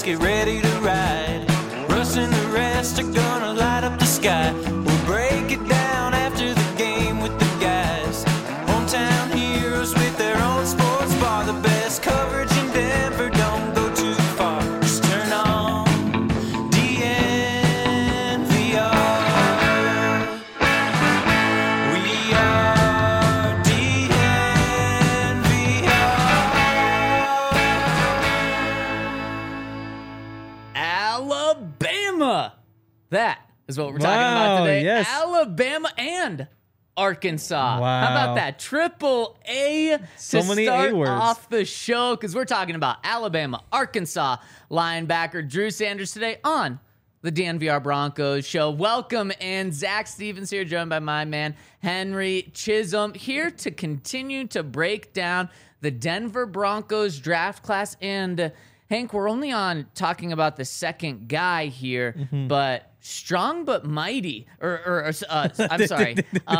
get ready to ride. Russ and the rest are gonna light up the sky. We'll break it down after the game with the guys. Hometown heroes with their own sports bar. The best coverage in Denver, don't go too far. Just turn on DNVR. We are DNVR. Alabama. That is what we're talking about today. Yes. Alabama and Arkansas. Wow. How about that? Triple A So to many start A words. off the show, because we're talking about Alabama, Arkansas linebacker Drew Sanders today on the DNVR Broncos show. Welcome, and Zach Stevens here, joined by my man Henry Chisholm, here to continue to break down the Denver Broncos draft class. And Hank, we're only on talking about the second guy here, but strong but mighty, I'm sorry.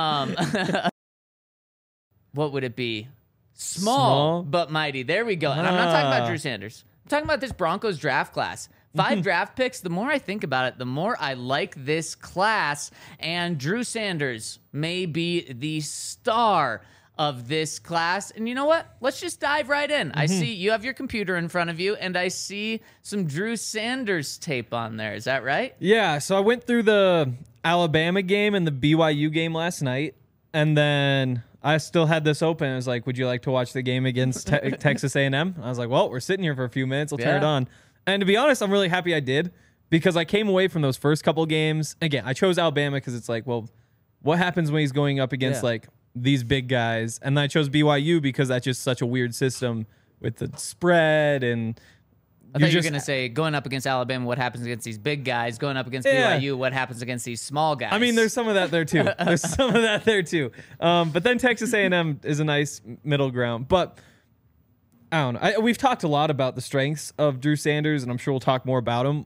What would it be? Small but mighty. There we go. And I'm not talking about Drew Sanders. I'm talking about this Broncos draft class. 5 draft picks. The more I think about it, the more I like this class. And Drew Sanders may be the star of this class. And you know what? Let's just dive right in. I see you have your computer in front of you, and I see some Drew Sanders tape on there. Is that right? Yeah, so I went through the Alabama game and the BYU game last night, and then I still had this open. I was like, would you like to watch the game against Texas A&M? I was like, well, we're sitting here for a few minutes. I'll turn it on. And to be honest, I'm really happy I did, because I came away from those first couple games. Again, I chose Alabama because it's like, well, what happens when he's going up against like these big guys? And then I chose BYU because that's just such a weird system with the spread. And I thought you were going to say, going up against Alabama, what happens against these big guys? Going up against BYU, what happens against these small guys? I mean, there's some of that there too. But then Texas A&M is a nice middle ground. But I don't know. We've talked a lot about the strengths of Drew Sanders, and I'm sure we'll talk more about him.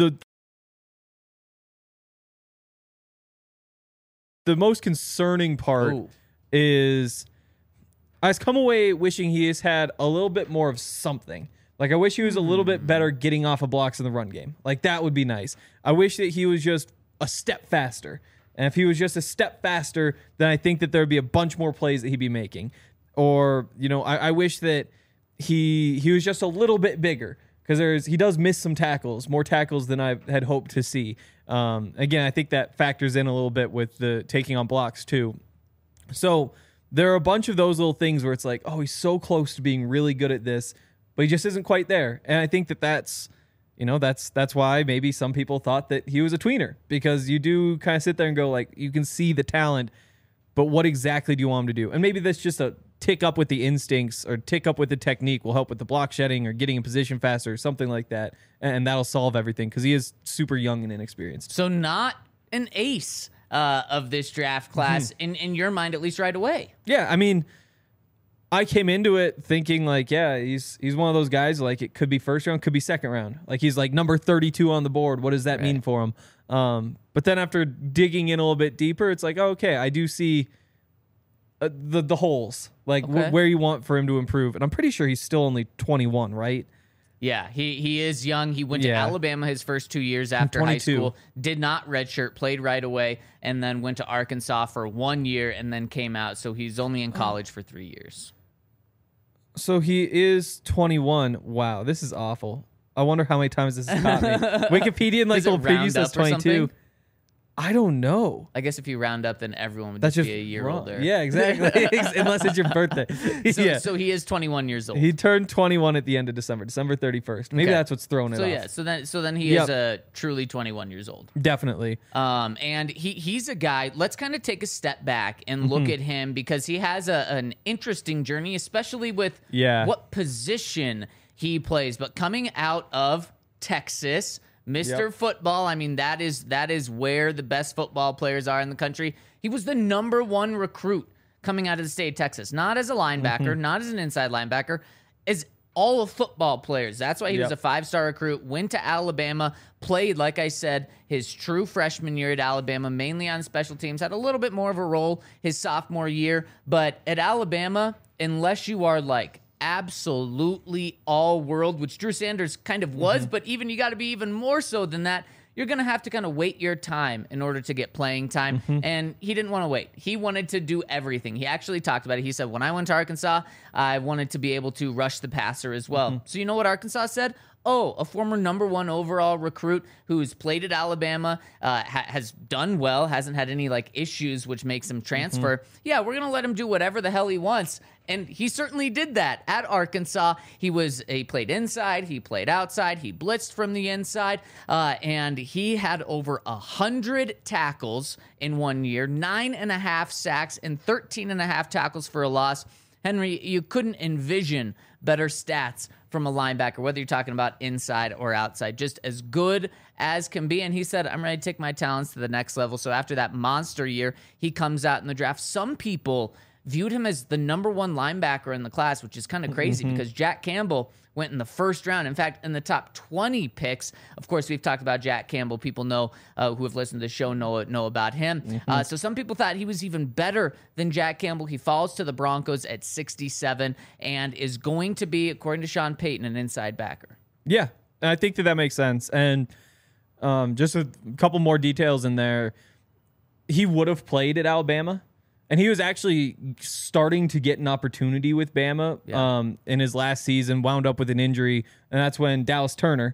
The most concerning part is I come away wishing he has had a little bit more of something. Like, I wish he was a little bit better getting off of blocks in the run game. Like, that would be nice. I wish that he was just a step faster. And if he was just a step faster, then I think that there would be a bunch more plays that he'd be making. Or, you know, I wish that he was just a little bit bigger, because he does miss some tackles, more tackles than I had hoped to see. Again, I think that factors in a little bit with the taking on blocks too. So there are a bunch of those little things where it's like, oh, he's so close to being really good at this, but he just isn't quite there. And I think that's why maybe some people thought that he was a tweener, because you do kind of sit there and go, like, you can see the talent, but what exactly do you want him to do? And maybe that's just a tick up with the instincts or tick up with the technique will help with the block shedding or getting in position faster or something like that. And that'll solve everything, because he is super young and inexperienced. So not an ace of this draft class in your mind, at least right away. Yeah, I mean, I came into it thinking like, yeah, he's one of those guys, like, it could be first round, could be second round. Like, he's like number 32 on the board. What does that mean for him? But then after digging in a little bit deeper, it's like, oh, okay, I do see the holes, like where you want for him to improve. And I'm pretty sure he's still only 21, right? Yeah, he is young. He went to Alabama his first 2 years after high school, did not redshirt, played right away, and then went to Arkansas for 1 year and then came out. So he's only in college for 3 years. So he is 21. Wow, this is awful. I wonder how many times this has caught me. Wikipedia and like little preview says 22. I don't know. I guess if you round up, then everyone would That's just be a year older. Yeah, exactly. Unless it's your birthday. So he is 21 years old. He turned 21 at the end of December 31st. Maybe that's what's throwing it off. So then he is truly 21 years old. Definitely. And he's a guy. Let's kind of take a step back and look at him, because he has an interesting journey, especially with what position he plays. But coming out of Texas, Mr. Football, I mean, that is where the best football players are in the country. He was the number 1 recruit coming out of the state of Texas, not as a linebacker, not as an inside linebacker, as all of football players. That's why he was a 5-star recruit, went to Alabama, played, like I said, his true freshman year at Alabama, mainly on special teams, had a little bit more of a role his sophomore year. But at Alabama, unless you are like absolutely all world, which Drew Sanders kind of was, but even you got to be even more so than that. You're going to have to kind of wait your time in order to get playing time. And he didn't want to wait. He wanted to do everything. He actually talked about it. He said, when I went to Arkansas, I wanted to be able to rush the passer as well. So you know what Arkansas said? Oh, a former number 1 overall recruit who's played at Alabama, has done well, hasn't had any like issues, which makes him transfer. Yeah, we're going to let him do whatever the hell he wants. And he certainly did that at Arkansas. He played inside, he played outside, he blitzed from the inside, and he had over 100 tackles in 1 year, 9.5 sacks, and 13.5 tackles for a loss. Henry, you couldn't envision better stats from a linebacker, whether you're talking about inside or outside, just as good as can be. And he said, I'm ready to take my talents to the next level. So after that monster year, he comes out in the draft. Some people viewed him as the number 1 linebacker in the class, which is kind of crazy because Jack Campbell went in the first round. In fact, in the top 20 picks, of course, we've talked about Jack Campbell. People know who have listened to the show know about him. So some people thought he was even better than Jack Campbell. He falls to the Broncos at 67 and is going to be, according to Sean Payton, an inside backer. Yeah, I think that makes sense. And just a couple more details in there. He would have played at Alabama. And he was actually starting to get an opportunity with Bama in his last season, wound up with an injury. And that's when Dallas Turner,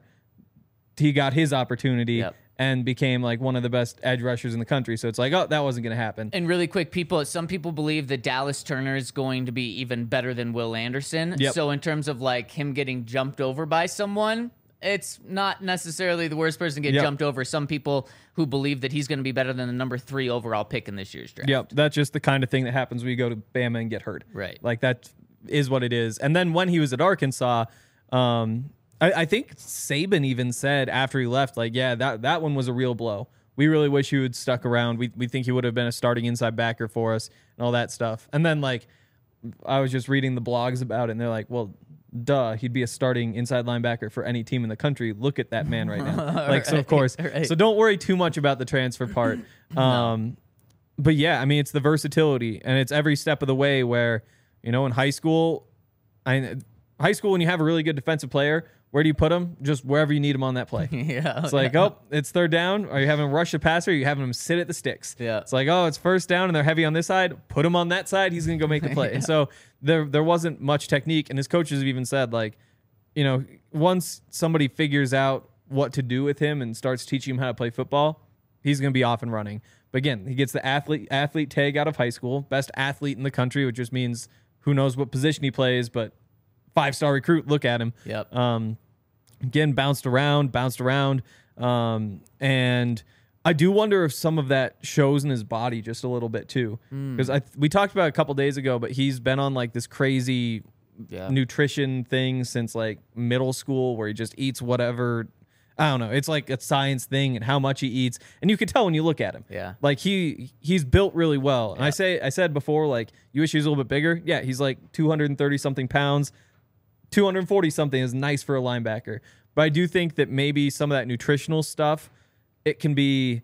he got his opportunity and became like one of the best edge rushers in the country. So it's like, oh, that wasn't going to happen. And really quick, some people believe that Dallas Turner is going to be even better than Will Anderson. So in terms of like him getting jumped over by someone, it's not necessarily the worst person to get jumped over. Some people who believe that he's going to be better than the number 3 overall pick in this year's draft. Yep, that's just the kind of thing that happens when you go to Bama and get hurt. Right. Like that is what it is. And then when he was at Arkansas, I think Saban even said after he left, like, yeah, that one was a real blow. We really wish he would stuck around. We think he would have been a starting inside backer for us and all that stuff. And then like I was just reading the blogs about it, and they're like, well, duh, he'd be a starting inside linebacker for any team in the country. Look at that man right now. Like, so of course, so don't worry too much about the transfer part. But yeah, I mean, it's the versatility, and it's every step of the way where, you know, in high school, when you have a really good defensive player, where do you put him? Just wherever you need him on that play. It's like, oh, it's third down. Are you having him rush the passer? Or are you having him sit at the sticks? It's like, oh, it's first down and they're heavy on this side. Put him on that side. He's going to go make the play. And so there wasn't much technique. And his coaches have even said, like, you know, once somebody figures out what to do with him and starts teaching him how to play football, he's going to be off and running. But again, he gets the athlete tag out of high school, best athlete in the country, which just means who knows what position he plays, but 5-star recruit, look at him. Again, bounced around. And I do wonder if some of that shows in his body just a little bit too. Because we talked about it a couple days ago, but he's been on like this crazy nutrition thing since like middle school where he just eats whatever. I don't know. It's like a science thing and how much he eats. And you can tell when you look at him. Like he's built really well. And I said before, like, you wish he was a little bit bigger. Yeah, he's like 230 something pounds. 240 something is nice for a linebacker. But I do think that maybe some of that nutritional stuff, it's kind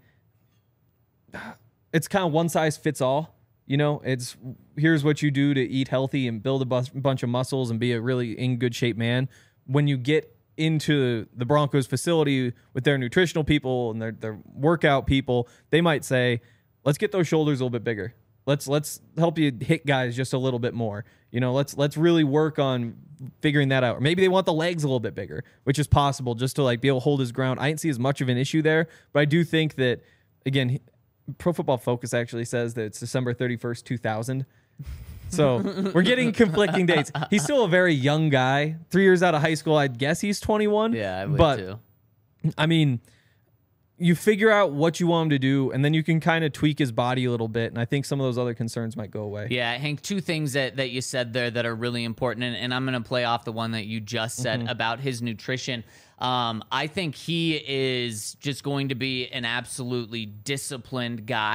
of one size fits all. You know, it's here's what you do to eat healthy and build a bunch of muscles and be a really in good shape man. When you get into the Broncos facility with their nutritional people and their workout people, they might say, let's get those shoulders a little bit bigger. Let's help you hit guys just a little bit more. You know, let's really work on figuring that out. Or maybe they want the legs a little bit bigger, which is possible, just to like be able to hold his ground. I didn't see as much of an issue there, but I do think that, again, Pro Football Focus actually says that it's December 31st, 2000. So we're getting conflicting dates. He's still a very young guy. 3 years out of high school, I'd guess he's 21. Yeah, I would too. I mean, you figure out what you want him to do, and then you can kind of tweak his body a little bit, and I think some of those other concerns might go away. Yeah, Hank, two things that you said there that are really important, and I'm going to play off the one that you just said about his nutrition. I think he is just going to be an absolutely disciplined guy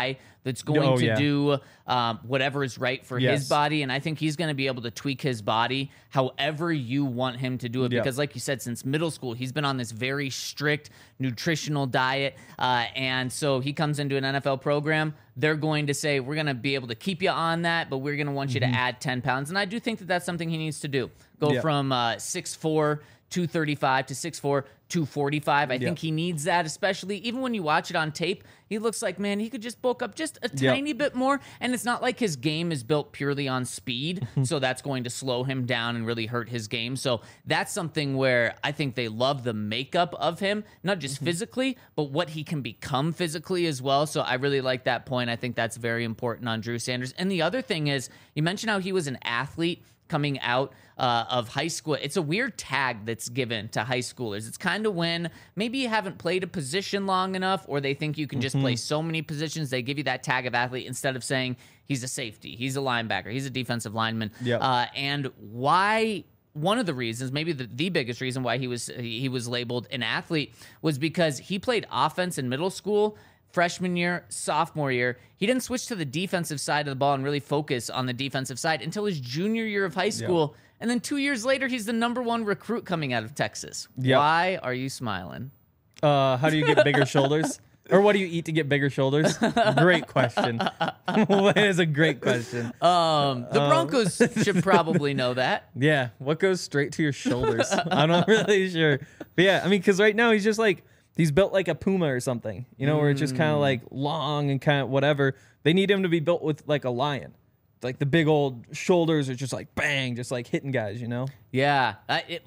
that's going to do whatever is right for his body. And I think he's going to be able to tweak his body however you want him to do it. Because like you said, since middle school, he's been on this very strict nutritional diet. And so he comes into an NFL program. They're going to say, we're going to be able to keep you on that, but we're going to want you to add 10 pounds. And I do think that that's something he needs to do. Go from 6'4", 235 to 6'4", 245. I think he needs that, especially even when you watch it on tape. He looks like, man, he could just bulk up just a tiny bit more. And it's not like his game is built purely on speed, so that's going to slow him down and really hurt his game. So that's something where I think they love the makeup of him, not just physically, but what he can become physically as well. So I really like that point. I think that's very important on Drew Sanders. And the other thing is, you mentioned how he was an athlete coming out of high school. It's a weird tag that's given to high schoolers. It's kind of when maybe you haven't played a position long enough, or they think you can just play so many positions, they give you that tag of athlete instead of saying he's a safety, he's a linebacker, he's a defensive lineman. And why... One of the reasons, maybe the biggest reason why he was labeled an athlete, was because he played offense in middle school, freshman year, sophomore year. He didn't switch to the defensive side of the ball and really focus on the defensive side until his junior year of high school. And then 2 years later, he's the #1 recruit coming out of Texas. Why are you smiling? How do you get bigger shoulders? Or what do you eat to get bigger shoulders? Great question. That is a great question. The Broncos should probably know that. Yeah. What goes straight to your shoulders? I'm not really sure. But yeah, I mean, because right now he's just like, he's built like a puma or something, you know, where it's just kind of like long and kind of whatever. They need him to be built with like a lion. Like the big old shoulders are just like bang, just like hitting guys, you know? Yeah.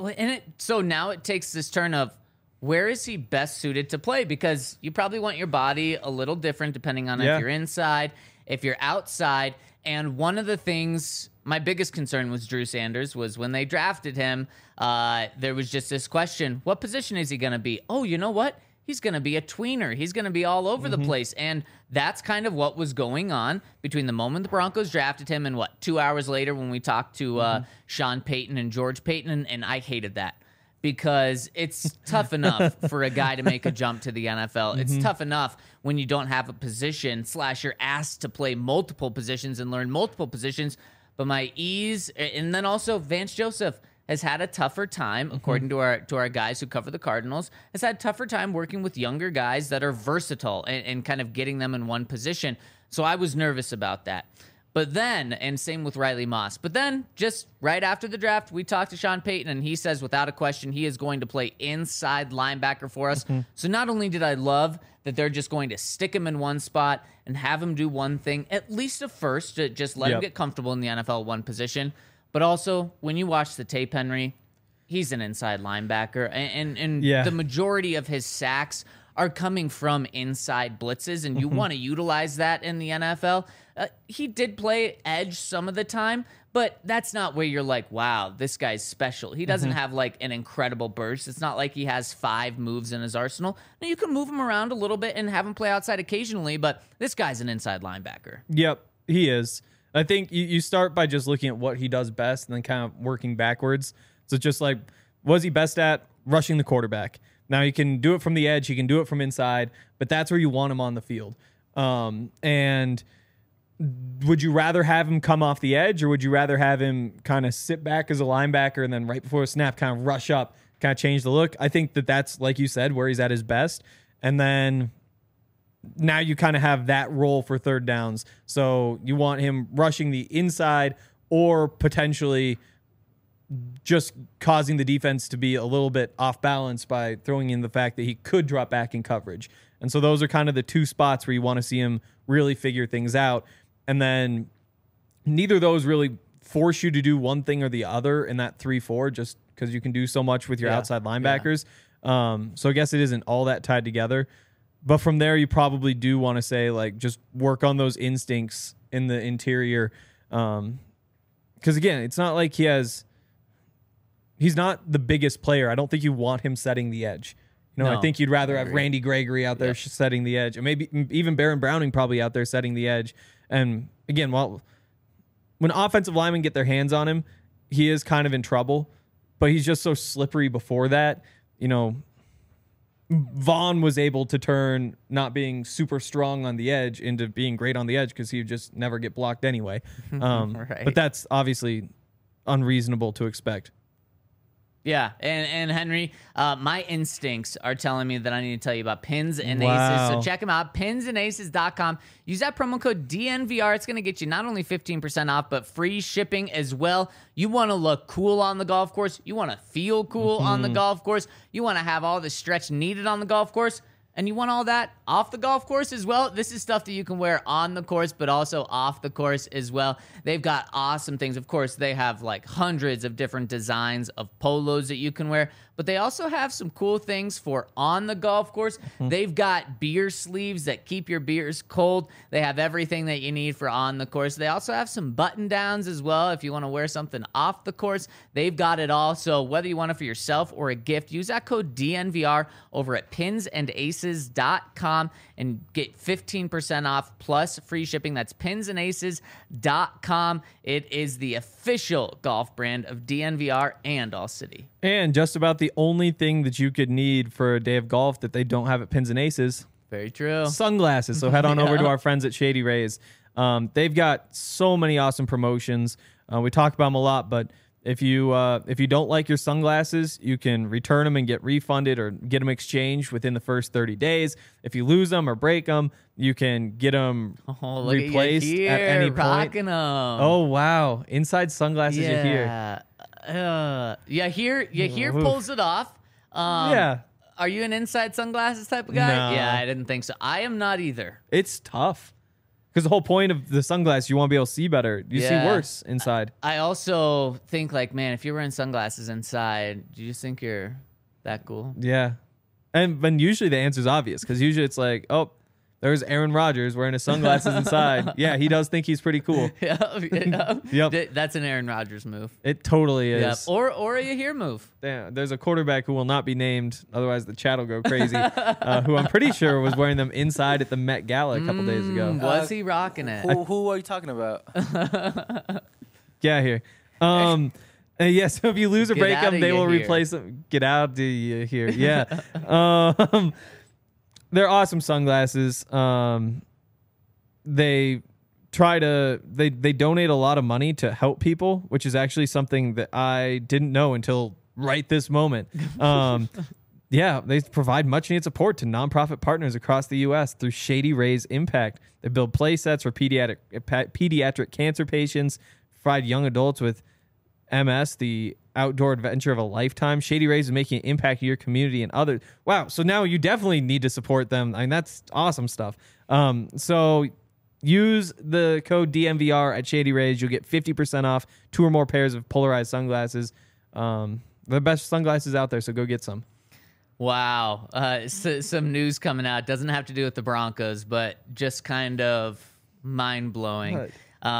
So now it takes this turn of, where is he best suited to play? Because you probably want your body a little different depending on if you're inside, if you're outside. And one of the things, my biggest concern was Drew Sanders, was when they drafted him, there was just this question, what position is he going to be? Oh, you know what? He's going to be a tweener. He's going to be all over the place. And that's kind of what was going on between the moment the Broncos drafted him and 2 hours later when we talked to Sean Payton and George Payton. And I hated that. Because it's tough enough for a guy to make a jump to the NFL. It's tough enough when you don't have a position / you're asked to play multiple positions and learn multiple positions. But my ease, and then also Vance Joseph has had a tougher time, according to our guys who cover the Cardinals, has had a tougher time working with younger guys that are versatile and kind of getting them in one position. So I was nervous about that. But then, and same with Riley Moss, but then just right after the draft, we talked to Sean Payton, and he says without a question, he is going to play inside linebacker for us. So not only did I love that they're just going to stick him in one spot and have him do one thing, at least at first, to just let him get comfortable in the NFL one position, but also when you watch the tape, Henry, he's an inside linebacker, and the majority of his sacks are coming from inside blitzes, and you want to utilize that in the NFL. He did play edge some of the time, but that's not where you're like, wow, this guy's special. He doesn't have like an incredible burst. It's not like he has 5 moves in his arsenal. Now, you can move him around a little bit and have him play outside occasionally, but this guy's an inside linebacker. Yep, he is. I think you start by just looking at what he does best and then kind of working backwards. So just like, what is he best at? Rushing the quarterback. Now, he can do it from the edge. He can do it from inside, but that's where you want him on the field. And would you rather have him come off the edge, or would you rather have him kind of sit back as a linebacker and then right before a snap kind of rush up, kind of change the look? I think that's, like you said, where he's at his best. And then now you kind of have that role for third downs. So you want him rushing the inside or potentially just causing the defense to be a little bit off balance by throwing in the fact that he could drop back in coverage. And so those are kind of the two spots where you want to see him really figure things out. And then neither of those really force you to do one thing or the other in that 3-4, just because you can do so much with your outside linebackers. So I guess it isn't all that tied together. But from there, you probably do want to say, like, just work on those instincts in the interior. Because, again, it's not like he's not the biggest player. I don't think you want him setting the edge. You know, I think you'd rather have Randy Gregory out there setting the edge, and maybe even Baron Browning probably out there setting the edge. And again, when offensive linemen get their hands on him, he is kind of in trouble, but he's just so slippery before that. You know, Vaughn was able to turn not being super strong on the edge into being great on the edge because he would just never get blocked anyway. Right. But that's obviously unreasonable to expect. Yeah, and Henry, my instincts are telling me that I need to tell you about Pins and Aces. So check them out, pinsandaces.com. Use that promo code DNVR. It's going to get you not only 15% off, but free shipping as well. You want to look cool on the golf course. You want to feel cool on the golf course. You want to have all the stretch needed on the golf course. And you want all that off the golf course as well. This is stuff that you can wear on the course, but also off the course as well. They've got awesome things. Of course, they have like hundreds of different designs of polos that you can wear, but they also have some cool things for on the golf course. They've got beer sleeves that keep your beers cold. They have everything that you need for on the course. They also have some button downs as well. If you want to wear something off the course, they've got it all. So whether you want it for yourself or a gift, use that code DNVR over at pinsandaces.com and get 15% off plus free shipping. That's pinsandaces.com. It is the official golf brand of DNVR and All City. And just about the only thing that you could need for a day of golf that they don't have at Pins and Aces. Very true. Sunglasses. So head on over to our friends at Shady Rays. They've got so many awesome promotions. We talk about them a lot, but if you don't like your sunglasses, you can return them and get refunded or get them exchanged within the first 30 days. If you lose them or break them, you can get them replaced at any point. Rocking them. Oh, wow. Inside Sunglasses, you're here. Here pulls it off. Yeah. Are you an inside sunglasses type of guy? No. Yeah, I didn't think so. I am not either. It's tough. Because the whole point of the sunglasses, you want to be able to see better. You see worse inside. I also think, like, man, if you're wearing sunglasses inside, do you just think you're that cool? Yeah. And usually the answer is obvious. Because usually it's like, oh, there's Aaron Rodgers wearing his sunglasses inside. Yeah, he does think he's pretty cool. Yep. That's an Aaron Rodgers move. It totally is. Yep. Or a Yahir move. Yeah, there's a quarterback who will not be named, otherwise the chat will go crazy, who I'm pretty sure was wearing them inside at the Met Gala a couple days ago. Was he rocking it? Who are you talking about? Get out here. So if you lose or break them, they will replace them. Get out of here. Yeah. They're awesome sunglasses. They donate a lot of money to help people, which is actually something that I didn't know until right this moment. Yeah, they provide much needed support to nonprofit partners across the U.S. through Shady Rays Impact. They build play sets for pediatric cancer patients, provide young adults with MS, the outdoor adventure of a lifetime. Shady Rays is making an impact in your community and others. Wow, so now you definitely need to support them. I mean, that's awesome stuff. So use the code DNVR at Shady Rays. You'll get 50% off 2 or more pairs of polarized sunglasses. The best sunglasses out there, so go get some. Wow. Some news coming out. Doesn't have to do with the Broncos, but just kind of mind-blowing.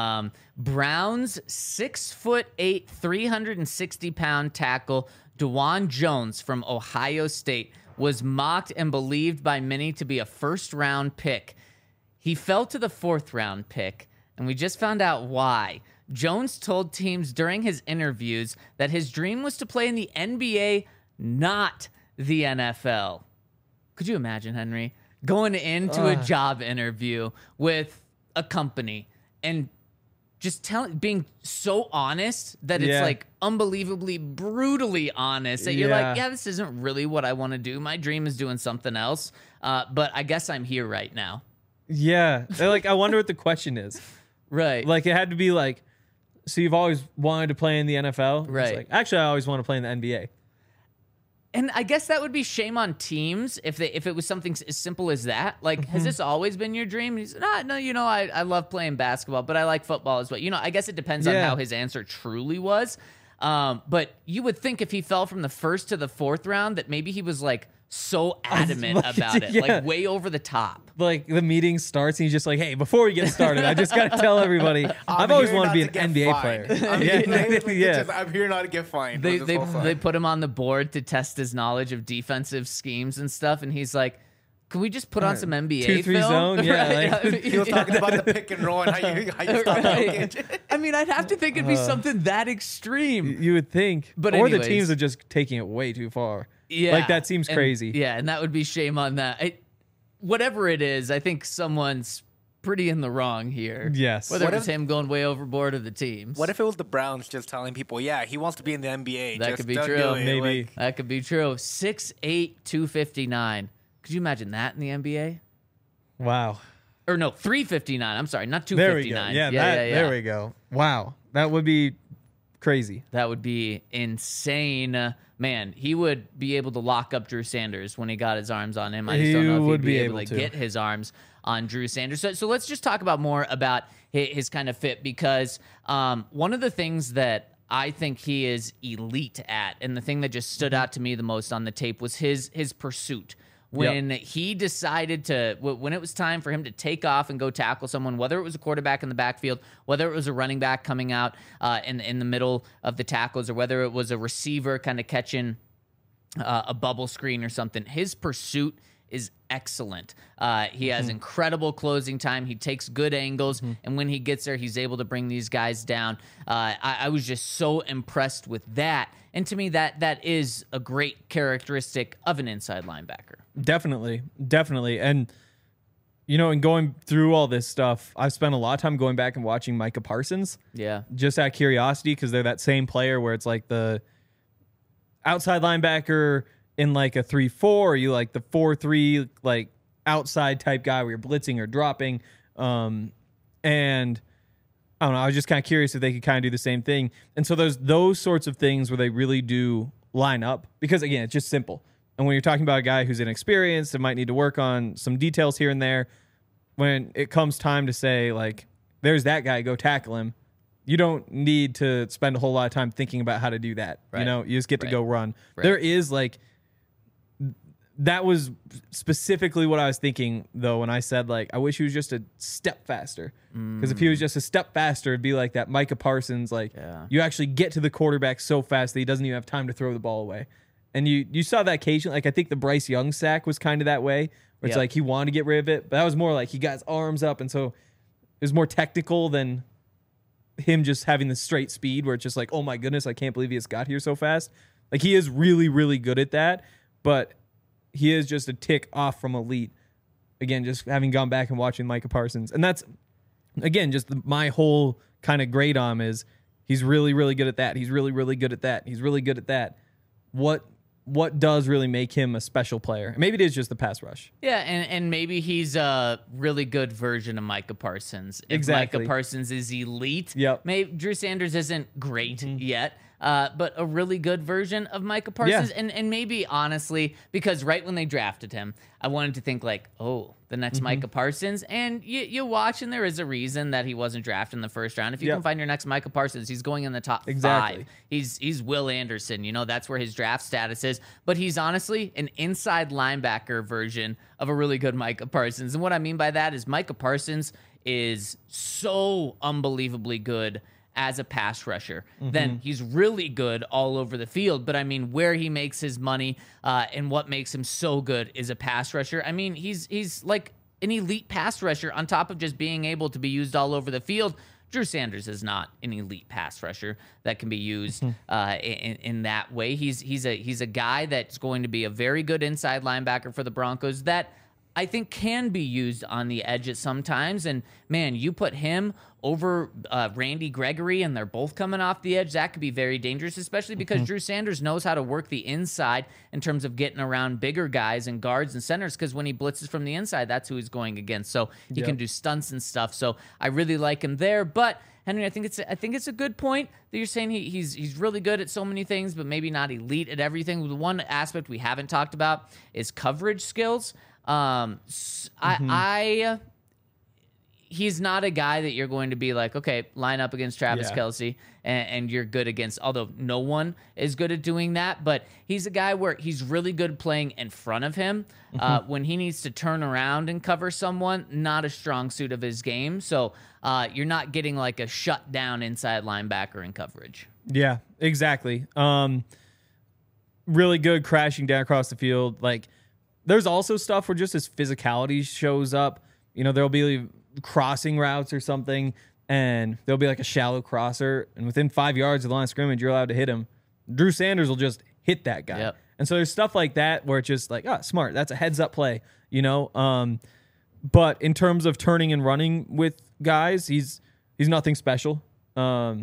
Browns 6'8", 360-pound tackle DeJuan Jones from Ohio State was mocked and believed by many to be a first-round pick. He fell to the 4th-round pick, and we just found out why. Jones told teams during his interviews that his dream was to play in the NBA, not the NFL. Could you imagine, Henry, going into a job interview with a company and just being so honest that it's like unbelievably, brutally honest that you're like, yeah, this isn't really what I want to do. My dream is doing something else. But I guess I'm here right now. Yeah. They're like, I wonder what the question is. Right. Like, it had to be like, so you've always wanted to play in the NFL? Right. It's like, actually, I always want to play in the NBA. And I guess that would be shame on teams if it was something as simple as that. Like, has this always been your dream? And he said, no, I love playing basketball, but I like football as well. I guess it depends on how his answer truly was. But you would think if he fell from the 1st to the 4th round that maybe he was like so adamant about it, like way over the top. Like the meeting starts and he's just like, hey, before we get started, I just got to tell everybody, I've always wanted to be an NBA player. I'm here not to get fined. They put him on the board to test his knowledge of defensive schemes and stuff, and he's like, can we just put on some NBA 2-3 film? zone? Yeah. Right? He was talking about the pick and roll and how you stop right. I mean, I'd have to think it'd be something that extreme. You would think. But or the teams are just taking it way too far. Yeah. Like, that seems crazy. Yeah, and that would be shame on that. Whatever it is, I think someone's pretty in the wrong here. Yes. Whether it's him going way overboard or the teams. What if it was the Browns just telling people, yeah, he wants to be in the NBA? That just could be don't true. do it. Maybe. Like, that could be true. 6'8", 259. Could you imagine that in the NBA? Wow. Or no, 359. I'm sorry, not There we 259. go. Yeah, there we go. Wow. That would be crazy. That would be insane. Man, he would be able to lock up Drew Sanders when he got his arms on him. I just don't know if he'd be able to get his arms on Drew Sanders. So let's just talk about more about his kind of fit, because one of the things that I think he is elite at, and the thing that just stood out to me the most on the tape, was his pursuit. When he decided when it was time for him to take off and go tackle someone, whether it was a quarterback in the backfield, whether it was a running back coming out in the middle of the tackles, or whether it was a receiver kind of catching a bubble screen or something, his pursuit is excellent. He has incredible closing time. He takes good angles, and when he gets there, he's able to bring these guys down. I was just so impressed with that. And to me, that is a great characteristic of an inside linebacker. Definitely. And, in going through all this stuff, I've spent a lot of time going back and watching Micah Parsons. Yeah. Just out of curiosity, because they're that same player where it's like the outside linebacker in like a 3-4, or you like the 4-3, like outside type guy where you're blitzing or dropping. And I don't know, I was just kind of curious if they could kind of do the same thing. And so there's those sorts of things where they really do line up, because again, it's just simple. And when you're talking about a guy who's inexperienced and might need to work on some details here and there, when it comes time to say, like, there's that guy, go tackle him, you don't need to spend a whole lot of time thinking about how to do that. Right. You just get to go run. Right. There is like, that was specifically what I was thinking, though, when I said, like, I wish he was just a step faster. Because if he was just a step faster, it'd be like that Micah Parsons, like, you actually get to the quarterback so fast that he doesn't even have time to throw the ball away. And you saw that occasionally. Like, I think the Bryce Young sack was kind of that way, where it's like he wanted to get rid of it. But that was more like he got his arms up, and so it was more technical than him just having the straight speed, where it's just like, oh my goodness, I can't believe he just got here so fast. Like, he is really, really good at that, but he is just a tick off from elite. Again, just having gone back and watching Micah Parsons. And that's, again, just my whole kind of grade on him is he's really, really good at that. He's really, really good at that. He's really good at that. What does really make him a special player? Maybe it is just the pass rush. Yeah, and maybe he's a really good version of Micah Parsons. If Exactly. Micah Parsons is elite, Yep. maybe Drew Sanders isn't great yet, but a really good version of Micah Parsons. Yeah. And maybe, honestly, because right when they drafted him, I wanted to think like, oh, the next Micah Parsons. And you watch, and there is a reason that he wasn't drafted in the first round. If you can find your next Micah Parsons, he's going in the top 5. He's Will Anderson. That's where his draft status is. But he's honestly an inside linebacker version of a really good Micah Parsons. And what I mean by that is Micah Parsons is so unbelievably good as a pass rusher. Then he's really good all over the field. But I mean, where he makes his money and what makes him so good is a pass rusher. I mean, he's like an elite pass rusher on top of just being able to be used all over the field. Drew Sanders is not an elite pass rusher that can be used in that way. He's a guy that's going to be a very good inside linebacker for the Broncos that I think can be used on the edge at sometimes. And man, you put him over Randy Gregory, and they're both coming off the edge. That could be very dangerous, especially because Drew Sanders knows how to work the inside in terms of getting around bigger guys and guards and centers, because when he blitzes from the inside, that's who he's going against. So he can do stunts and stuff. So I really like him there. But Henry, I think it's a good point that you're saying he's really good at so many things, but maybe not elite at everything. The one aspect we haven't talked about is coverage skills. He's not a guy that you're going to be like, okay, line up against Travis Kelce and you're good against, although no one is good at doing that, but he's a guy where he's really good playing in front of him. When he needs to turn around and cover someone, not a strong suit of his game. So you're not getting like a shutdown inside linebacker in coverage. Yeah, exactly. Really good crashing down across the field. Like, there's also stuff where just his physicality shows up. There'll be crossing routes or something, and there'll be like a shallow crosser, and within 5 yards of the line of scrimmage, you're allowed to hit him. Drew Sanders will just hit that guy. And so there's stuff like that where it's just like, oh, smart. That's a heads up play, you know? But in terms of turning and running with guys, he's nothing special. I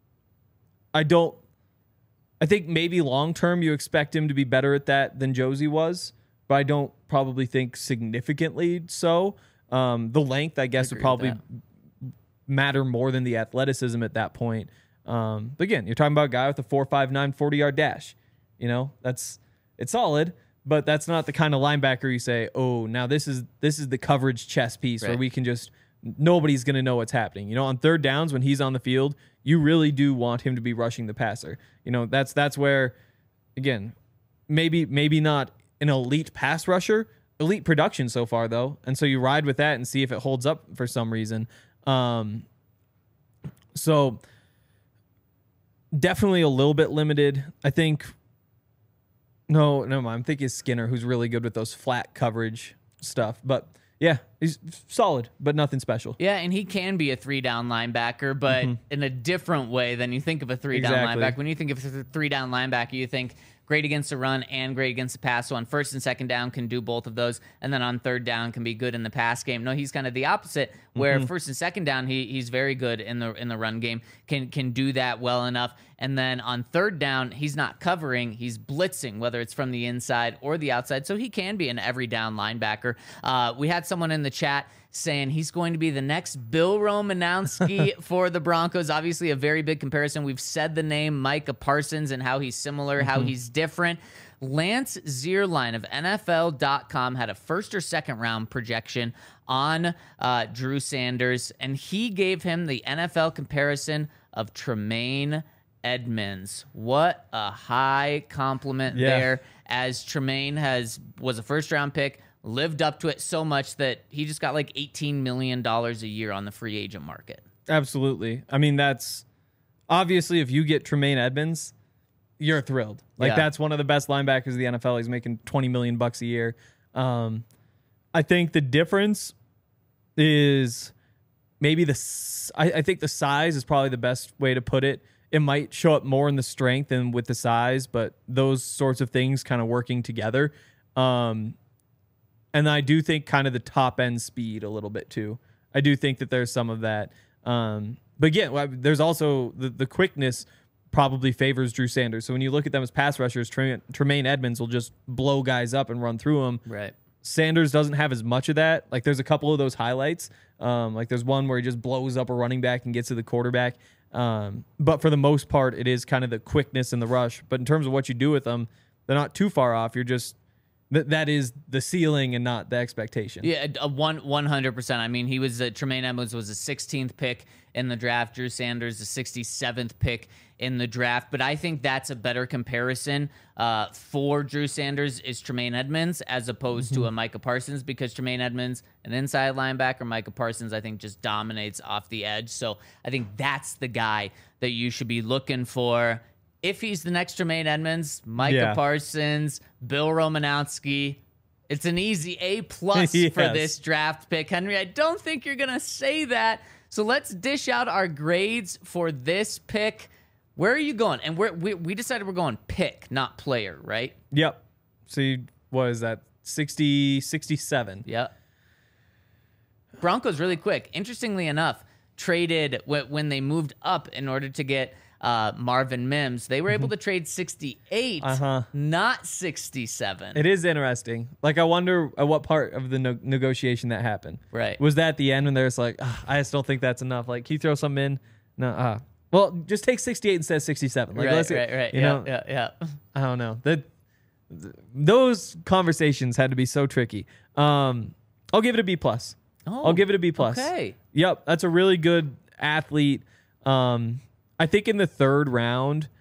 think maybe long term you expect him to be better at that than Josie was, but I don't probably think significantly so. The length, I guess, would probably matter more than the athleticism at that point. But again, you're talking about a guy with a 4.59 40-yard dash. You know, it's solid, but that's not the kind of linebacker you say, oh, now this is the coverage chess piece where we can just, nobody's going to know what's happening. You know, on third downs when he's on the field, you really do want him to be rushing the passer. You know, that's where, again, maybe not an elite pass rusher, elite production so far though. And so you ride with that and see if it holds up for some reason. So definitely a little bit limited. I think, no, I'm thinking Skinner, who's really good with those flat coverage stuff. But yeah, he's solid, but nothing special. Yeah, and he can be a 3-down linebacker, but in a different way than you think of a 3-down linebacker. When you think of a 3-down linebacker, you think great against the run and great against the pass. So on first and second down can do both of those, and then on third down can be good in the pass game. No, he's kind of the opposite, where first and second down he's very good in the run game, can do that well enough. And then on third down, he's not covering, he's blitzing, whether it's from the inside or the outside. So he can be an every down linebacker. We had someone in the chat saying he's going to be the next Bill Romanowski for the Broncos. Obviously, a very big comparison. We've said the name Micah Parsons and how he's similar, how he's different. Lance Zierlein of NFL.com had a first or second round projection on Drew Sanders, and he gave him the NFL comparison of Tremaine Edmonds. What a high compliment there, as Tremaine was a first round pick, lived up to it so much that he just got like $18 million a year on the free agent market. Absolutely. I mean, that's obviously, if you get Tremaine Edmonds, you're thrilled. Like that's one of the best linebackers of the NFL. He's making $20 million a year. I think the difference is maybe I think the size is probably the best way to put it. It might show up more in the strength than with the size, but those sorts of things kind of working together. And I do think kind of the top end speed a little bit too. I do think that there's some of that. But again, there's also the quickness probably favors Drew Sanders. So when you look at them as pass rushers, Tremaine Edmonds will just blow guys up and run through them. Right. Sanders doesn't have as much of that. Like there's a couple of those highlights. Like there's one where he just blows up a running back and gets to the quarterback. But for the most part, it is kind of the quickness and the rush. But in terms of what you do with them, they're not too far off. You're just that is the ceiling and not the expectation. Yeah, 100%. I mean, Tremaine Edmonds was a 16th pick in the draft. Drew Sanders, the 67th pick in the draft. But I think that's a better comparison for Drew Sanders is Tremaine Edmonds as opposed to a Micah Parsons, because Tremaine Edmonds, an inside linebacker, Micah Parsons, I think, just dominates off the edge. So I think that's the guy that you should be looking for. If he's the next Tremaine Edmonds, Micah Parsons, Bill Romanowski, it's an easy A+ for this draft pick. Henry, I don't think you're going to say that. So let's dish out our grades for this pick. Where are you going? And we decided we're going pick, not player, right? Yep. So what is that? 60, 67. Yep. Broncos really quick. Interestingly enough, traded when they moved up in order to get Marvin Mims. They were able to trade 68, not 67. It is interesting. Like, I wonder at what part of the negotiation that happened. Right. Was that the end when there's like, I just don't think that's enough. Like, can you throw something in? No. Well, just take 68 instead of 67. Like, right. You know, I don't know. Those conversations had to be so tricky. I'll give it a B+. I'll give it a B+. Okay. Yep, that's a really good athlete. I think in the third round,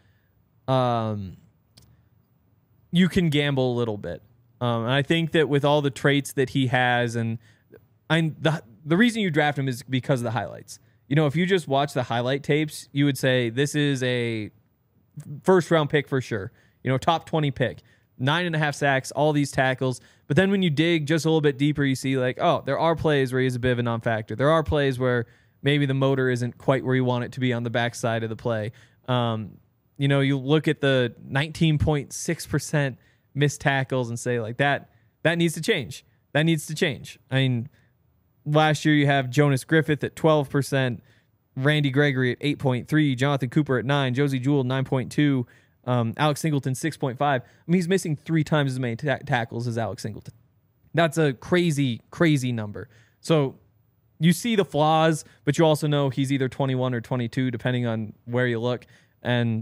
you can gamble a little bit. And I think that with all the traits that he has, and the reason you draft him is because of the highlights. You know, if you just watch the highlight tapes, you would say this is a first round pick for sure. You know, top 20 pick, 9.5 sacks, all these tackles. But then when you dig just a little bit deeper, you see like, oh, there are plays where he's a bit of a non-factor. There are plays where maybe the motor isn't quite where you want it to be on the backside of the play. You know, you look at the 19.6% missed tackles and say like that needs to change. That needs to change. I mean, last year you have Jonas Griffith at 12%, Randy Gregory at 8.3, Jonathan Cooper at 9, Josie Jewell 9.2, Alex Singleton 6.5. I mean, he's missing 3 times as many tackles as Alex Singleton. That's a crazy, crazy number. So you see the flaws, but you also know he's either 21 or 22, depending on where you look. And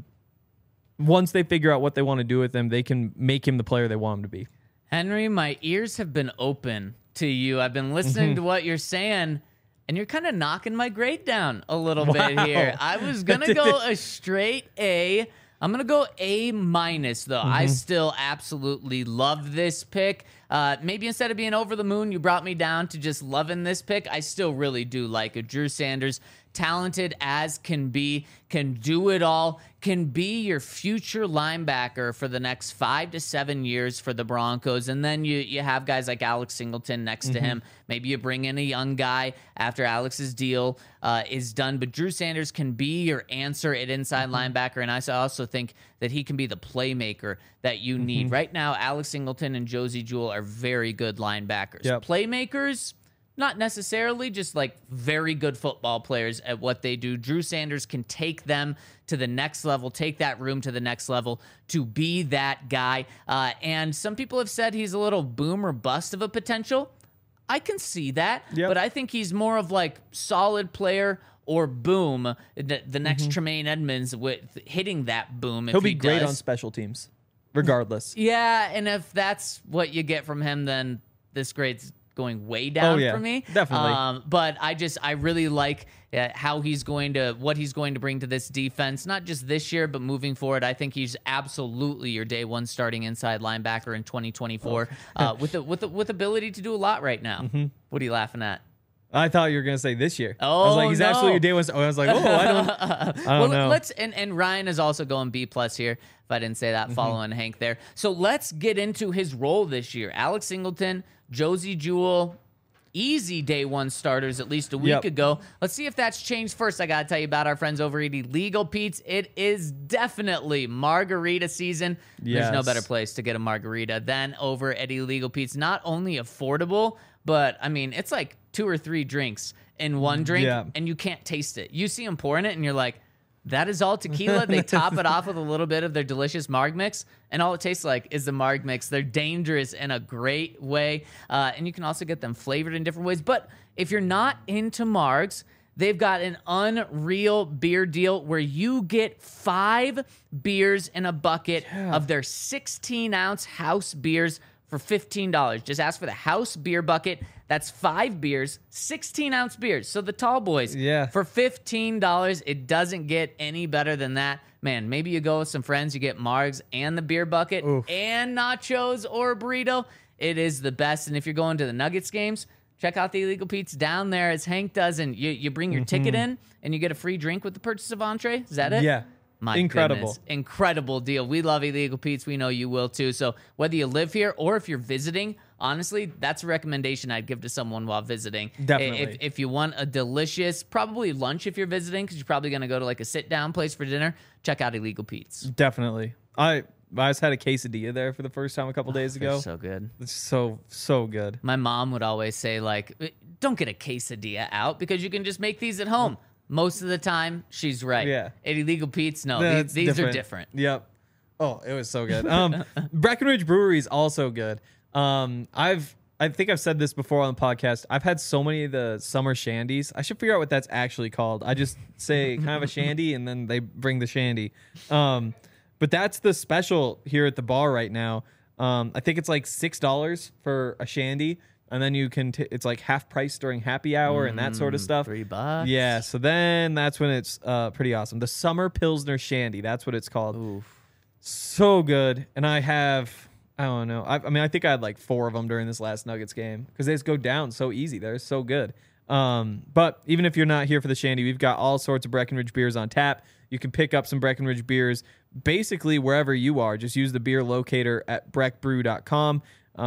once they figure out what they want to do with him, they can make him the player they want him to be. Henry, my ears have been open to you. I've been listening to what you're saying, and you're kind of knocking my grade down a little bit here. I was going to go a straight A. I'm going to go A-, though. I still absolutely love this pick. Maybe instead of being over the moon, you brought me down to just loving this pick. I still really do like it. Drew Sanders, talented as can be, can do it all, can be your future linebacker for the next 5 to 7 years for the Broncos. And then you have guys like Alex Singleton next to him. Maybe you bring in a young guy after Alex's deal is done. But Drew Sanders can be your answer at inside linebacker. And I also think that he can be the playmaker that you need. Right now, Alex Singleton and Josie Jewell are very good linebackers. Playmakers, not necessarily, just like very good football players at what they do. Drew Sanders can take them to the next level, take that room to the next level to be that guy. And some people have said he's a little boom or bust of a potential. I can see that, but I think he's more of like solid player or boom, the next Tremaine Edmonds with hitting that boom. He'll be great on special teams, regardless. Yeah, and if that's what you get from him, then this grade's going way down for me. Definitely. But I really like what he's going to bring to this defense, not just this year, but moving forward. I think he's absolutely your day one starting inside linebacker in 2024 with ability to do a lot right now. What are you laughing at? I thought you were going to say this year. Oh, I was like, he's absolutely your day one. I was like, I don't know. And Ryan is also going B+ here, if I didn't say that, following Hank there. So let's get into his role this year. Alex Singleton, Josie Jewell, easy day one starters at least a week ago. Let's see if that's changed. First, I got to tell you about our friends over at Illegal Pete's. It is definitely margarita season. There's no better place to get a margarita than over at Illegal Pete's. Not only affordable, but I mean, it's like 2 or 3 drinks in one drink, and you can't taste it. You see them pouring it, and you're like, that is all tequila. They top it off with a little bit of their delicious Marg Mix, and all it tastes like is the Marg Mix. They're dangerous in a great way, and you can also get them flavored in different ways. But if you're not into Margs, they've got an unreal beer deal where you get 5 beers in a bucket of their 16-ounce house beers for $15. Just ask for the house beer bucket. That's 5 beers, 16-ounce beers. So the tall boys, for $15. It doesn't get any better than that. Man, maybe you go with some friends, you get Margs and the beer bucket and nachos or a burrito. It is the best. And if you're going to the Nuggets games, check out the Illegal Pete's down there, as Hank does. And you bring your ticket in, and you get a free drink with the purchase of entree. Is that it? Yeah. My goodness. Incredible deal. We love Illegal Pete's. We know you will too. So whether you live here or if you're visiting, honestly, that's a recommendation I'd give to someone while visiting. Definitely. If you want a delicious, probably lunch if you're visiting, because you're probably going to go to like a sit-down place for dinner, check out Illegal Pete's. Definitely. I just had a quesadilla there for the first time a couple days ago. So good. It's so good. My mom would always say, like, don't get a quesadilla out because you can just make these at home. Most of the time, she's right. Yeah. At Illegal Pete's, no, these are different. Yep. Oh, it was so good. Breckenridge Brewery is also good. I think I've said this before on the podcast. I've had so many of the summer shandies. I should figure out what that's actually called. I just say kind of a shandy, and then they bring the shandy. But that's the special here at the bar right now. I think it's like $6 for a shandy. And then you can, it's like half price during happy hour and that sort of stuff. $3. Yeah. So then that's when it's pretty awesome. The Summer Pilsner Shandy. That's what it's called. Oof. So good. And I don't know. I think I had like 4 of them during this last Nuggets game because they just go down so easy. They're so good. But even if you're not here for the shandy, we've got all sorts of Breckenridge beers on tap. You can pick up some Breckenridge beers basically wherever you are. Just use the beer locator at breckbrew.com.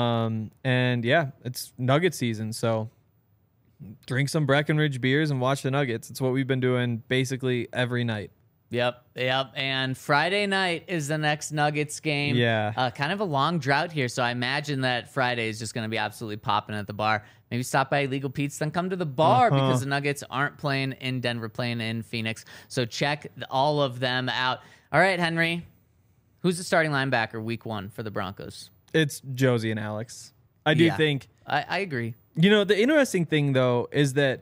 And yeah, it's Nugget season, so drink some Breckenridge beers and watch the Nuggets. It's what we've been doing basically every night. Yep. And Friday night is the next Nuggets game. Yeah. Kind of a long drought here, so I imagine that Friday is just going to be absolutely popping at the bar. Maybe stop by Illegal Pete's, then come to the bar because the Nuggets aren't playing in Denver, playing in Phoenix. So check all of them out. All right, Henry. Who's the starting linebacker week 1 for the Broncos? It's Josie and Alex. I do think. I agree. The interesting thing, though, is that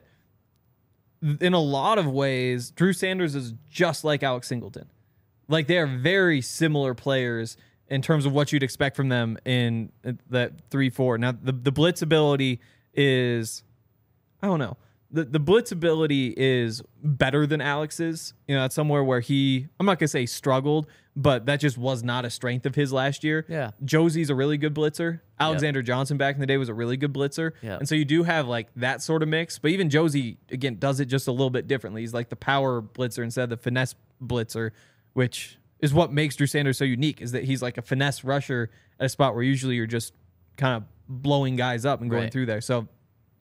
in a lot of ways, Drew Sanders is just like Alex Singleton. Like, they are very similar players in terms of what you'd expect from them in that 3-4. Now, the blitz ability is, I don't know. The blitz ability is better than Alex's. That's somewhere where I'm not going to say struggled, but that just was not a strength of his last year. Yeah. Josie's a really good blitzer. Alexander Johnson back in the day was a really good blitzer. Yep. And so you do have like that sort of mix. But even Josie, again, does it just a little bit differently. He's like the power blitzer instead of the finesse blitzer, which is what makes Drew Sanders so unique, is that he's like a finesse rusher at a spot where usually you're just kind of blowing guys up and going through there. So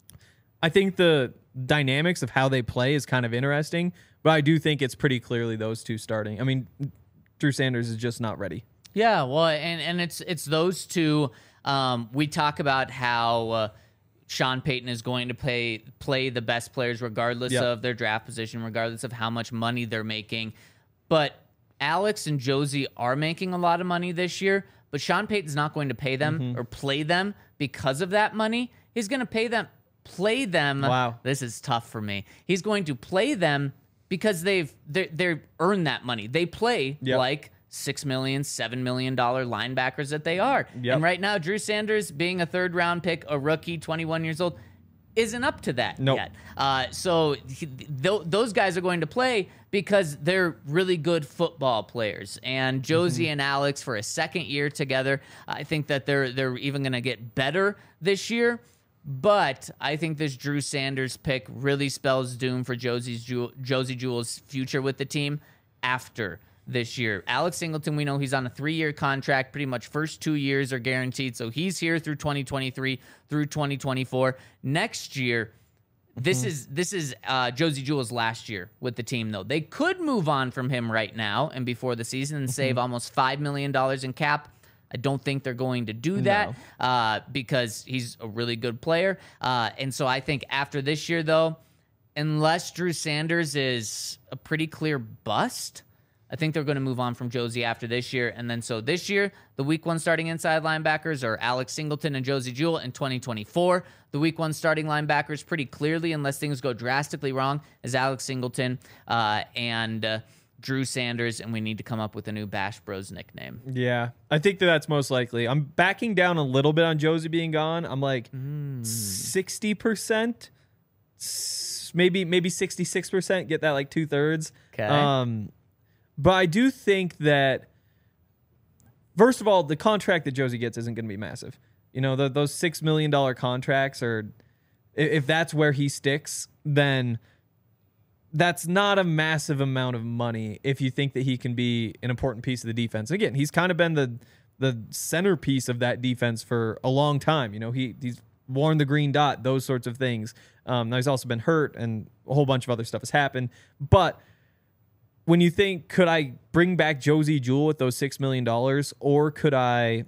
I think the dynamics of how they play is kind of interesting, but I do think it's pretty clearly those two starting. I mean, Drew Sanders is just not ready. Yeah, well, and it's those two. We talk about how Sean Payton is going to play the best players regardless of their draft position, regardless of how much money they're making. But Alex and Josie are making a lot of money this year, but Sean Payton's not going to pay them or play them because of that money. He's going to play them. Wow. This is tough for me. He's going to play them because they've earned that money. They play like $6 million, $7 million linebackers that they are. Yep. And right now, Drew Sanders, being a 3rd round pick, a rookie, 21 years old, isn't up to that yet. So those guys are going to play because they're really good football players. And Josie and Alex, for a 2nd year together, I think that they're even going to get better this year. But I think this Drew Sanders pick really spells doom for Josie Jewell's future with the team after this year. Alex Singleton, we know he's on a 3-year contract. Pretty much first 2 years are guaranteed. So he's here through 2023 through 2024. Next year, this is Josie Jewell's last year with the team, though. They could move on from him right now and before the season and save almost $5 million in cap. I don't think they're going to do that because he's a really good player. And so I think after this year, though, unless Drew Sanders is a pretty clear bust, I think they're going to move on from Josie after this year. And then so this year, the week 1 starting inside linebackers are Alex Singleton and Josie Jewell. In 2024, the week 1 starting linebackers pretty clearly, unless things go drastically wrong, is Alex Singleton and Drew Sanders, and we need to come up with a new Bash Bros nickname. Yeah, I think that's most likely. I'm backing down a little bit on Josie being gone. I'm like 60%, maybe 66%. Get that like 2/3. Okay. But I do think that, first of all, the contract that Josie gets isn't going to be massive. Those $6 million contracts are, if that's where he sticks, then that's not a massive amount of money if you think that he can be an important piece of the defense. Again, he's kind of been the centerpiece of that defense for a long time. He's worn the green dot, those sorts of things. Now he's also been hurt and a whole bunch of other stuff has happened. But when you think, could I bring back Josie Jewell with those $6 million, or could I,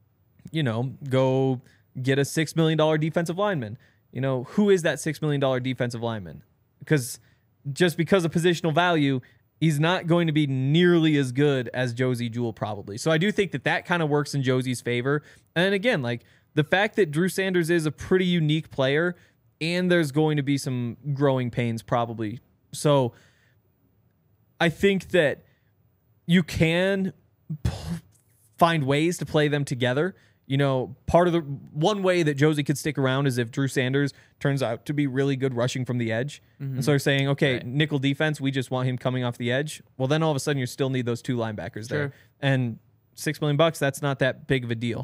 go get a $6 million defensive lineman? Who is that $6 million defensive lineman? Because just because of positional value, he's not going to be nearly as good as Josie Jewell probably. So I do think that kind of works in Josie's favor. And again, like the fact that Drew Sanders is a pretty unique player, and there's going to be some growing pains probably. So I think that you can find ways to play them together. Part of the one way that Josie could stick around is if Drew Sanders turns out to be really good rushing from the edge. And so they're saying, okay, nickel defense, we just want him coming off the edge. Well, then all of a sudden you still need those 2 linebackers there. And $6 million, that's not that big of a deal.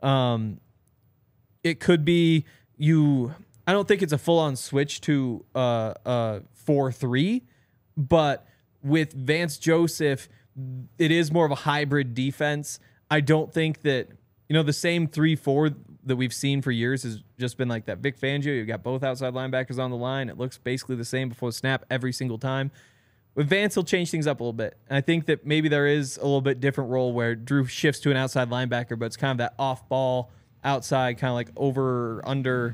It could be I don't think it's a full-on switch to 4-3, but with Vance Joseph, it is more of a hybrid defense. I don't think that, the same 3-4 that we've seen for years has just been like that. Vic Fangio, you've got both outside linebackers on the line. It looks basically the same before the snap every single time. With Vance, he'll change things up a little bit. And I think that maybe there is a little bit different role where Drew shifts to an outside linebacker, but it's kind of that off-ball, outside, kind of like over, under.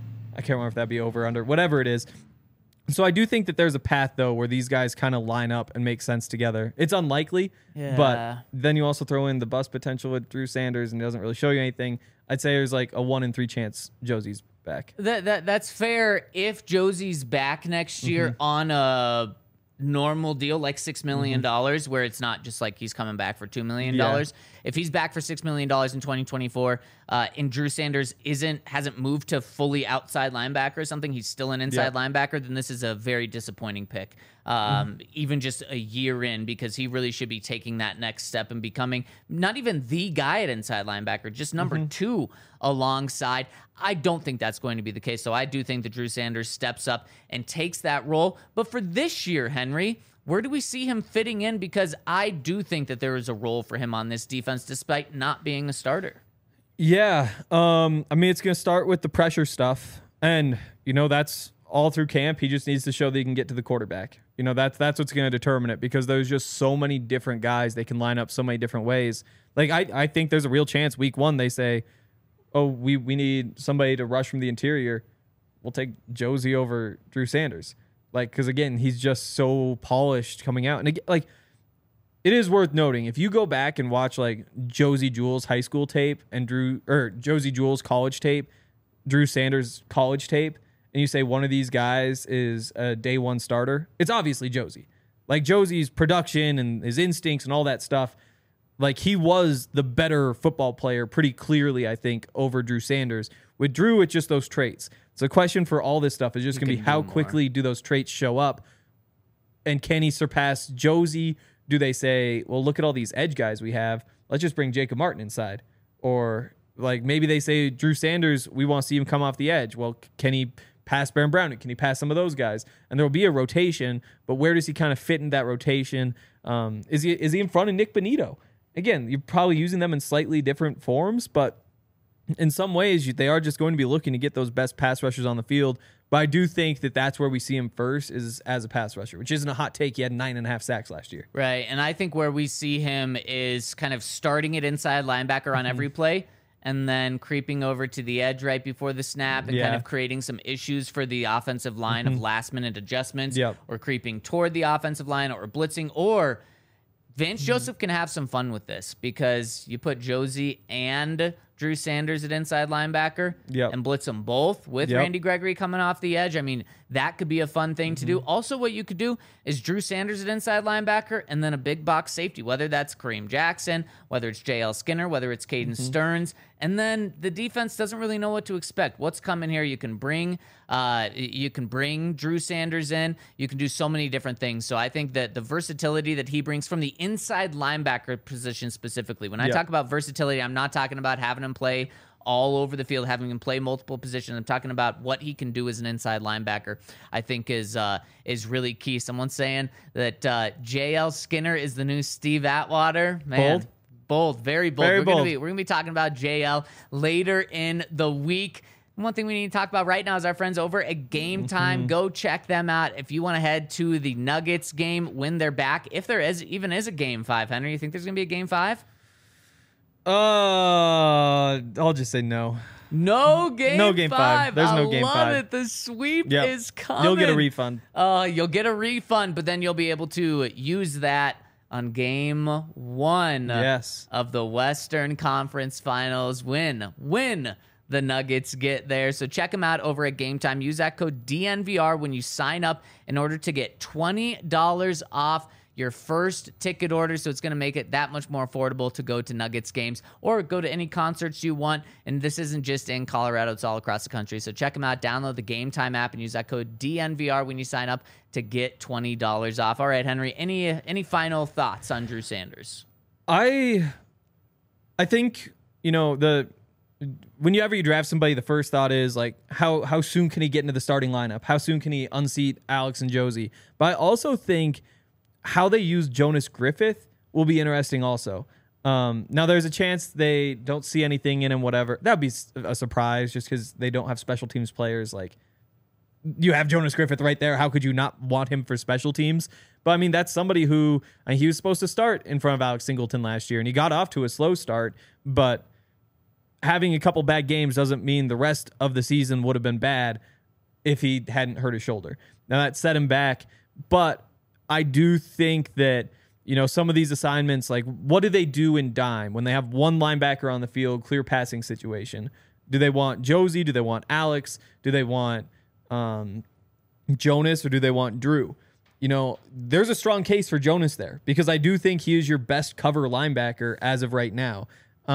I can't remember if that'd be over, under, whatever it is. So I do think that there's a path, though, where these guys kind of line up and make sense together. It's unlikely, but then you also throw in the bust potential with Drew Sanders, and it doesn't really show you anything. I'd say there's like a 1 in 3 chance Josie's back. That's fair if Josie's back next year on a normal deal like $6 million, where it's not just like he's coming back for $2 million. Yeah. If he's back for $6 million in 2024 and Drew Sanders hasn't moved to fully outside linebacker or something, he's still an inside linebacker, then this is a very disappointing pick. Even just a year in, because he really should be taking that next step and becoming not even the guy at inside linebacker, just number 2 alongside. I don't think that's going to be the case. So I do think that Drew Sanders steps up and takes that role. But for this year, Henry, where do we see him fitting in? Because I do think that there is a role for him on this defense, despite not being a starter. Yeah. I mean, it's going to start with the pressure stuff. And, that's all through camp. He just needs to show that he can get to the quarterback. That's what's going to determine it, because there's just so many different guys. They can line up so many different ways. Like, I think there's a real chance week 1 they say, oh, we need somebody to rush from the interior. We'll take Josie over Drew Sanders. Like, because again, he's just so polished coming out. And again, like, it is worth noting, if you go back and watch like Josie Jewell's high school tape and Josie Jewell's college tape, Drew Sanders' college tape, and you say one of these guys is a day 1 starter, it's obviously Josie. Like, Josie's production and his instincts and all that stuff, like, he was the better football player pretty clearly, I think, over Drew Sanders. With Drew, it's just those traits. So the question for all this stuff is just going to be how quickly do those traits show up? And can he surpass Josie? Do they say, well, look at all these edge guys we have. Let's just bring Jacob Martin inside. Or, like, maybe they say, Drew Sanders, we want to see him come off the edge. Well, can he pass Baron Browning? Can he pass some of those guys? And there will be a rotation, but where does he kind of fit in that rotation? Is he in front of Nick Bonito? Again, you're probably using them in slightly different forms, but in some ways, they are just going to be looking to get those best pass rushers on the field. But I do think that that's where we see him first, is as a pass rusher, which isn't a hot take. He had 9.5 sacks last year. Right, and I think where we see him is kind of starting at inside linebacker on every play, and then creeping over to the edge right before the snap and kind of creating some issues for the offensive line of last-minute adjustments, or creeping toward the offensive line, or blitzing, or Vance Joseph can have some fun with this, because you put Josie and Drew Sanders at inside linebacker and blitz them both with Randy Gregory coming off the edge. I mean, that could be a fun thing to do. Also, what you could do is Drew Sanders at inside linebacker and then a big box safety, whether that's Kareem Jackson, whether it's J.L. Skinner, whether it's Caden Stearns. And then the defense doesn't really know what to expect. What's coming here? You can bring Drew Sanders in. You can do so many different things. So I think that the versatility that he brings from the inside linebacker position specifically, when I talk about versatility, I'm not talking about having him play all over the field, having him play multiple positions. I'm talking about what he can do as an inside linebacker, I think is really key. Someone's saying that J.L. Skinner is the new Steve Atwater. Man, bold, very bold. We're gonna be talking about JL later in the week. One thing we need to talk about right now is our friends over at Game Time. Go check them out if you want to head to the Nuggets game when they're back. If there even is a Game 5, Henry, you think there's going to be a Game 5? I'll just say no. No Game 5. There's no Game 5. I love it. The sweep is coming. You'll get a refund. You'll get a refund, but then you'll be able to use that on Game 1 of the Western Conference Finals. Win the Nuggets get there. So check them out over at Game Time. Use that code DNVR when you sign up in order to get $20 off your first ticket order. So it's going to make it that much more affordable to go to Nuggets games or go to any concerts you want. And this isn't just in Colorado, it's all across the country. So check them out. Download the Game Time app and use that code DNVR when you sign up to get $20 off. All right, Henry, any final thoughts on Drew Sanders? I think, whenever you draft somebody, the first thought is like, how soon can he get into the starting lineup? How soon can he unseat Alex and Josie? But I also think how they use Jonas Griffith will be interesting also. Now, there's a chance they don't see anything in him, whatever. That would be a surprise just because they don't have special teams players. Like, you have Jonas Griffith right there. How could you not want him for special teams? But I mean, that's somebody who he was supposed to start in front of Alex Singleton last year, and he got off to a slow start. But having a couple bad games doesn't mean the rest of the season would have been bad if he hadn't hurt his shoulder. Now that set him back, but I do think that, some of these assignments, like what do they do in dime when they have one linebacker on the field, clear passing situation? Do they want Josie? Do they want Alex? Do they want Jonas, or do they want Drew? There's a strong case for Jonas there because I do think he is your best cover linebacker as of right now.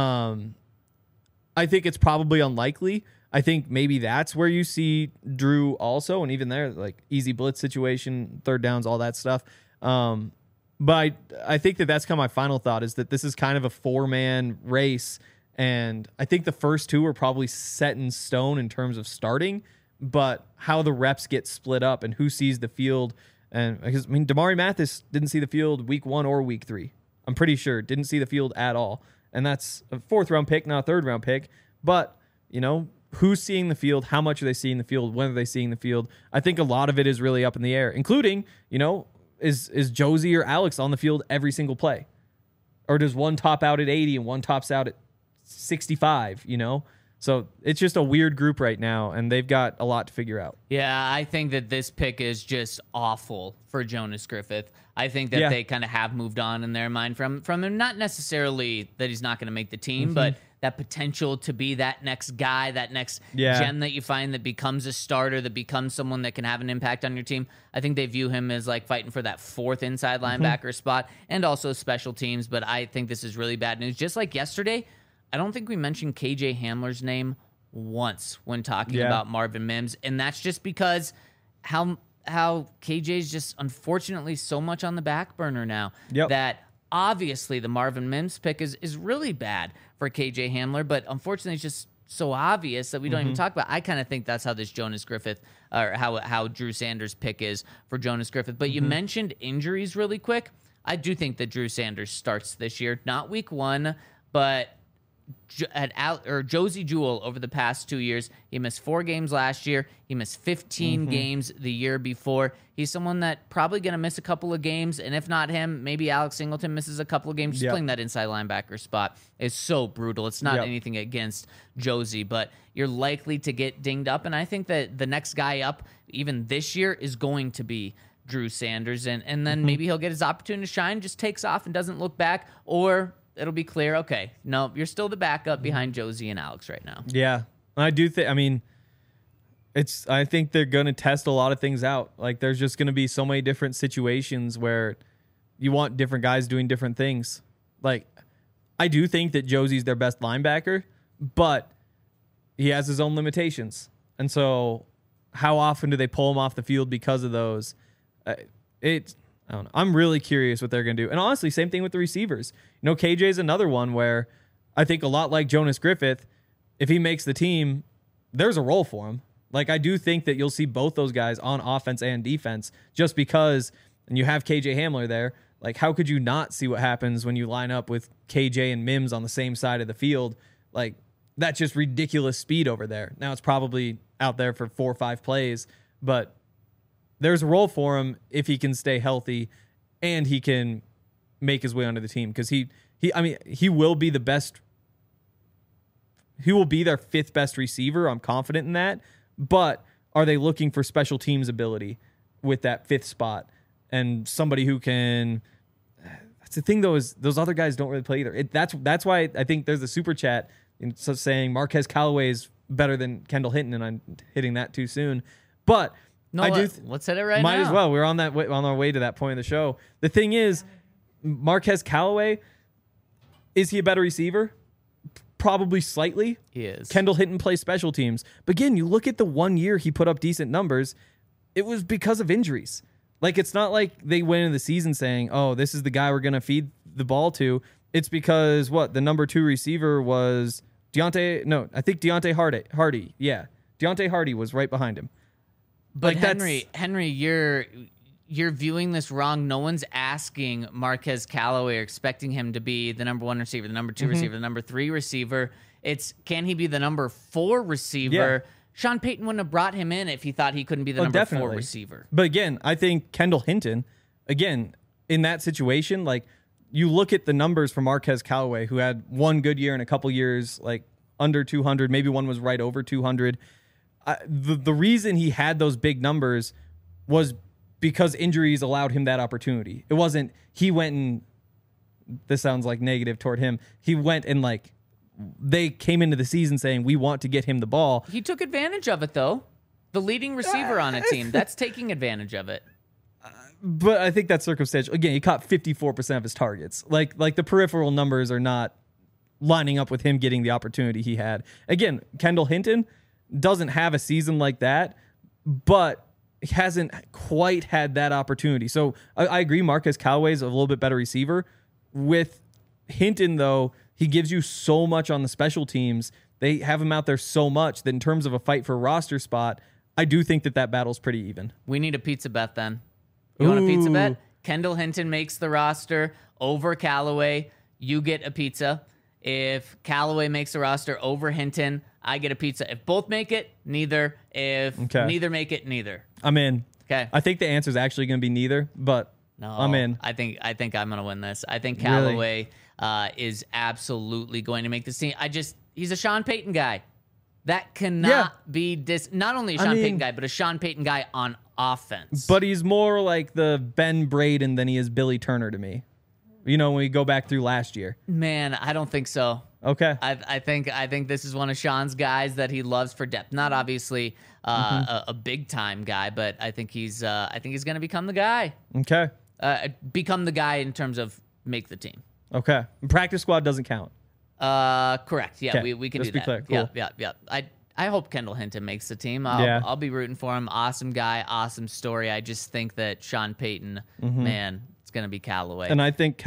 I think it's probably unlikely. I think maybe that's where you see Drew also, and even there, like easy blitz situation, third downs, all that stuff. But I think that's kind of my final thought, is that this is kind of a 4-man race, and I think the first two are probably set in stone in terms of starting, but how the reps get split up and who sees the field. And because Damari Mathis didn't see the field week 1 or week 3. I'm pretty sure didn't see the field at all. And that's a 4th-round pick, not a 3rd-round pick. But, who's seeing the field? How much are they seeing the field? When are they seeing the field? I think a lot of it is really up in the air, including, is Josie or Alex on the field every single play? Or does one top out at 80 and one tops out at 65, So it's just a weird group right now, and they've got a lot to figure out. Yeah, I think that this pick is just awful for Jonas Griffith. I think that they kind of have moved on in their mind from him. Not necessarily that he's not going to make the team, but that potential to be that next guy, that next gem that you find that becomes a starter, that becomes someone that can have an impact on your team. I think they view him as like fighting for that 4th inside linebacker spot and also special teams, but I think this is really bad news. Just like yesterday, I don't think we mentioned KJ Hamler's name once when talking about Marvin Mims, and that's just because how KJ's just unfortunately so much on the back burner now that obviously the Marvin Mims pick is really bad for KJ Hamler, but unfortunately it's just so obvious that we don't even talk about. I kind of think that's how this Jonas Griffith, or how Drew Sanders' pick is for Jonas Griffith. But you mentioned injuries really quick. I do think that Drew Sanders starts this year, not week 1, but Josie Jewell over the past 2 years. He missed 4 games last year. He missed 15 games the year before. He's someone that probably going to miss a couple of games, and if not him, maybe Alex Singleton misses a couple of games. Just playing that inside linebacker spot is so brutal. It's not anything against Josie, but you're likely to get dinged up, and I think that the next guy up, even this year, is going to be Drew Sanders, and then maybe he'll get his opportunity to shine, just takes off and doesn't look back, or it'll be clear, okay, no, you're still the backup behind Josie and Alex right now. Yeah, I do think, I think they're going to test a lot of things out. Like, there's just going to be so many different situations where you want different guys doing different things. Like, I do think that Josie's their best linebacker, but he has his own limitations. And so how often do they pull him off the field because of those? I don't know. I'm really curious what they're going to do. And honestly, same thing with the receivers. KJ is another one where I think a lot like Jonas Griffith, if he makes the team, there's a role for him. Like, I do think that you'll see both those guys on offense and defense just because, and you have KJ Hamler there. Like, how could you not see what happens when you line up with KJ and Mims on the same side of the field? Like, that's just ridiculous speed over there. Now, it's probably out there for 4 or 5 plays, but there's a role for him if he can stay healthy and he can make his way onto the team, because he will be the best. He will be their 5th best receiver. I'm confident in that. But are they looking for special teams ability with that 5th spot and somebody who can? That's the thing, though, is those other guys don't really play either. That's why I think there's a super chat saying Marquez Callaway is better than Kendall Hinton, and I'm hitting that too soon. But no, let's hit it right now. Might as well. We're on our way to that point of the show. The thing is, Marquez Callaway, is he a better receiver? Probably slightly. He is. Kendall Hinton plays special teams. But again, you look at the 1 year he put up decent numbers, it was because of injuries. Like, it's not like they went into the season saying, oh, this is the guy we're going to feed the ball to. It's because, the number 2 receiver was Deontay Hardy. Yeah. Deontay Hardy was right behind him. But like, Henry, you're viewing this wrong. No one's asking Marquez Callaway or expecting him to be the number 1 receiver, the number 2 receiver, the number 3 receiver. It's, can he be the number 4 receiver? Yeah. Sean Payton wouldn't have brought him in if he thought he couldn't be the number 4 receiver. But again, I think Kendall Hinton again, in that situation, like you look at the numbers for Marquez Callaway, who had one good year and a couple years like under 200, maybe one was right over 200. The reason he had those big numbers was because injuries allowed him that opportunity. It wasn't he went and, this sounds like negative toward him, he went and like they came into the season saying we want to get him the ball. He took advantage of it though. The leading receiver on a team, that's taking advantage of it. But I think that's circumstantial. Again, he caught 54% of his targets. Like the peripheral numbers are not lining up with him getting the opportunity he had. Again, Kendall Hinton doesn't have a season like that, but he hasn't quite had that opportunity. So I agree Marquez Callaway is a little bit better receiver. With Hinton, though, he gives you so much on the special teams. They have him out there so much that in terms of a fight for a roster spot, I do think that battle's pretty even. We need a pizza bet then. You want a pizza bet? Kendall Hinton makes the roster over Callaway. You get a pizza. If Callaway makes the roster over Hinton, I get a pizza. If both make it, neither. If neither make it, neither. I'm in. Okay. I think the answer is actually going to be neither, but no, I'm in. I think I'm going to win this. I think Callaway is absolutely going to make this team. He's a Sean Payton guy. That cannot be not only a Sean Payton guy, but a Sean Payton guy on offense. But he's more like the Ben Braden than he is Billy Turner to me. You know, when we go back through last year. Man, I don't think so. Okay. I think this is one of Sean's guys that he loves for depth. Not obviously a big time guy, but I think he's going to become the guy. Okay. Become the guy in terms of make the team. Okay. Practice squad doesn't count. Correct. Yeah, okay. we can Let's do be that. Clear. Cool. Yeah. I hope Kendall Hinton makes the team. I'll be rooting for him. Awesome guy, awesome story. I just think that Sean Payton, man, it's going to be Callaway. And I think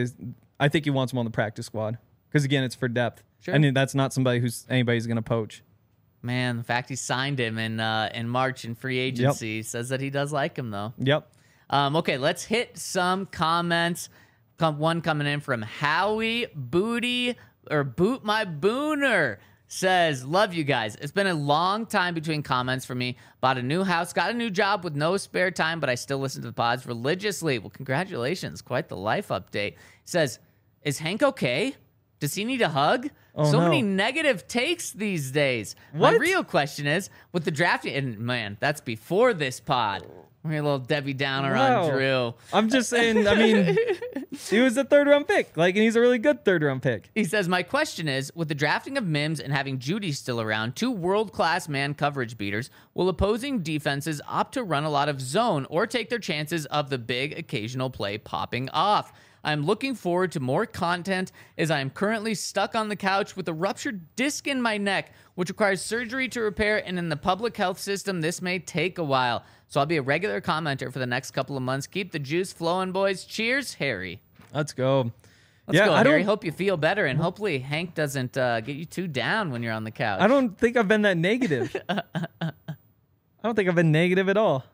I think he wants him on the practice squad because, again, it's for depth. Sure. I mean, that's not anybody's going to poach. Man, the fact he signed him in March in free agency says that he does like him, though. Yep. Okay, let's hit some comments. One coming in from Howie Booty or Boot My Booner says, love you guys. It's been a long time between comments for me. Bought a new house, got a new job with no spare time, but I still listen to the pods religiously. Well, congratulations. Quite the life update. Says, is Hank okay? Does he need a hug? Many negative takes these days. What? My real question is, with the drafting, and man, that's before this pod. We're a little Debbie Downer on Drew. I'm just saying, I mean, he was a third-round pick. And he's a really good third-round pick. He says, my question is, with the drafting of Mims and having Judy still around, two world-class man coverage beaters, will opposing defenses opt to run a lot of zone or take their chances of the big occasional play popping off? I'm looking forward to more content as I am currently stuck on the couch with a ruptured disc in my neck, which requires surgery to repair, and in the public health system, this may take a while. So I'll be a regular commenter for the next couple of months. Keep the juice flowing, boys. Cheers, Harry. Let's go. Let's go, Harry. Hope you feel better, and hopefully Hank doesn't get you too down when you're on the couch. I don't think I've been that negative. I don't think I've been negative at all.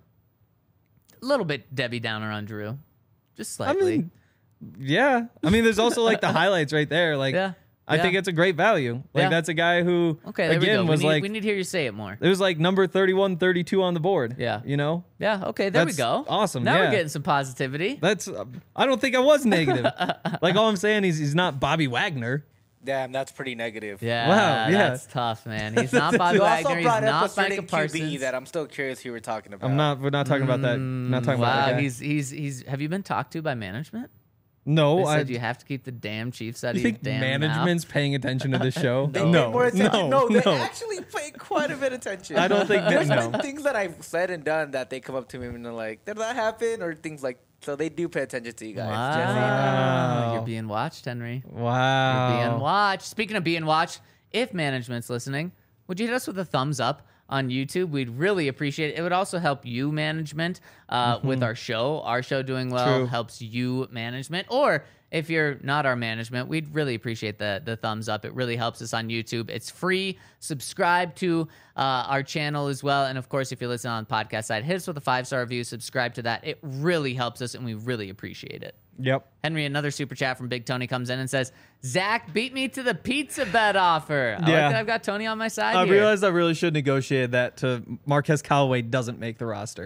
A little bit Debbie Downer on Drew. Just slightly. Yeah. I mean, there's also the highlights right there. I think it's a great value. That's a guy who, again, was we need to hear you say it more. It was number 31, 32 on the board. Yeah. You know? Yeah. Okay. There we go. Awesome. Now we're getting some positivity. I don't think I was negative. All I'm saying is he's not Bobby Wagner. Damn, that's pretty negative. Yeah. Wow. Yeah. That's tough, man. He's not Bobby Wagner. He's not Micah Parsons. QB that I'm still curious who we're talking about. We're not talking about that. Not talking about that guy. He's. Have you been talked to by management? No, they said you have to keep the damn Chiefs out of your damn management's mouth? paying attention to this show? No, they actually pay quite a bit of attention. I don't think there's been things that I've said and done that they come up to me and they're like, "Did that happen?" or things like. So they do pay attention to you guys. Wow. Just so you know. You're being watched, Henry. Wow. You're being watched. Speaking of being watched, if management's listening, would you hit us with a thumbs up on YouTube? We'd really appreciate it. It would also help you, management, with our show. Our show doing well helps you, management. Or if you're not our management, we'd really appreciate the thumbs up. It really helps us on YouTube. It's free. Subscribe to our channel as well. And, of course, if you're listening on the podcast side, hit us with a 5-star review. Subscribe to that. It really helps us, and we really appreciate it. Yep. Henry, another super chat from Big Tony comes in and says, Zach beat me to the pizza bet offer. I like that I've got Tony on my side I here. realized I really should negotiate that to Marquez Callaway doesn't make the roster.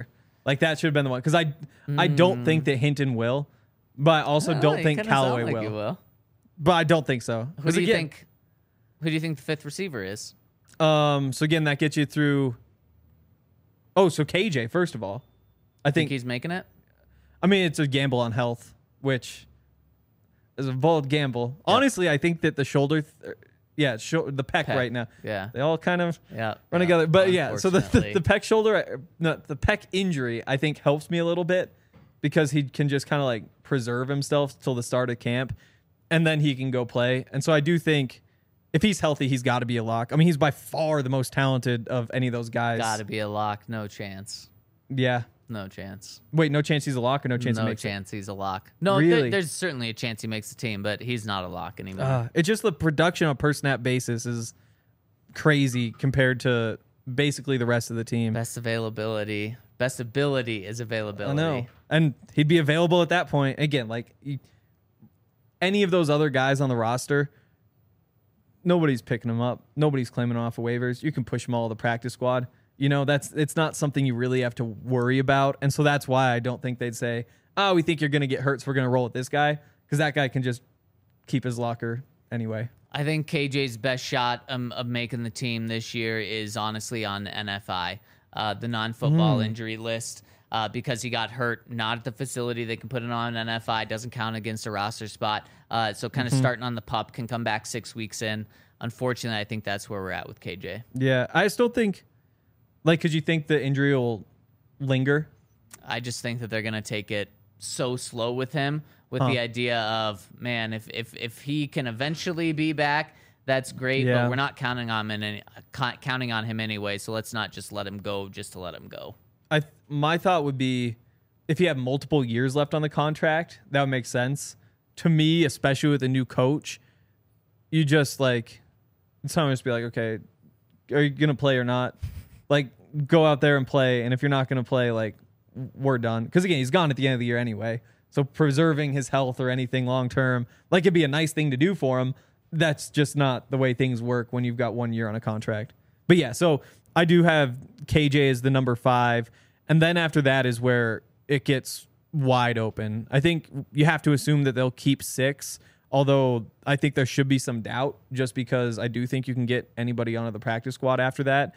Like that should have been the one because I don't think that Hinton will, but I also don't think Callaway will. But I don't think so. Who do you think? Who do you think the fifth receiver is? So again, that gets you through. Oh, so KJ first of all, I think he's making it. I mean, it's a gamble on health, which is a bold gamble. Yep. Honestly, I think that the shoulder. The pec right now. Yeah. They all kind of run together. But so the pec shoulder, the pec injury, I think helps me a little bit because he can just kind of like preserve himself till the start of camp and then he can go play. And so I do think if he's healthy, he's got to be a lock. I mean, he's by far the most talented of any of those guys. Got to be a lock. No chance. Yeah. No chance. Wait, no chance he's a lock or no chance he makes it? No chance he's a lock. No, really? There's certainly a chance he makes the team, but he's not a lock anymore. It's just the production on a per snap basis is crazy compared to basically the rest of the team. Best availability. Best ability is availability. I know. And he'd be available at that point. Again, like any of those other guys on the roster, nobody's picking them up. Nobody's claiming them off of waivers. You can push them all to the practice squad. You know, it's not something you really have to worry about. And so that's why I don't think they'd say, oh, we think you're going to get hurt, so we're going to roll with this guy. Because that guy can just keep his locker anyway. I think KJ's best shot of making the team this year is honestly on NFI, the non-football injury list, because he got hurt not at the facility. They can put it on NFI. Doesn't count against a roster spot. So kind of starting on the pup, can come back 6 weeks in. Unfortunately, I think that's where we're at with KJ. Yeah, I still think... Like, could you think the injury will linger? I just think that they're going to take it so slow with him, with the idea of, man, if he can eventually be back, that's great, but we're not counting on him anyway, so let's not just let him go just to let him go. My thought would be, if you have multiple years left on the contract, that would make sense. To me, especially with a new coach, you just, like, someone just be like, okay, are you going to play or not? Like, go out there and play, and if you're not going to play, like, we're done. Because, again, he's gone at the end of the year anyway. So preserving his health or anything long-term, like, it'd be a nice thing to do for him. That's just not the way things work when you've got 1 year on a contract. But, yeah, so I do have KJ as the number 5, and then after that is where it gets wide open. I think you have to assume that they'll keep 6, although I think there should be some doubt just because I do think you can get anybody onto the practice squad after that.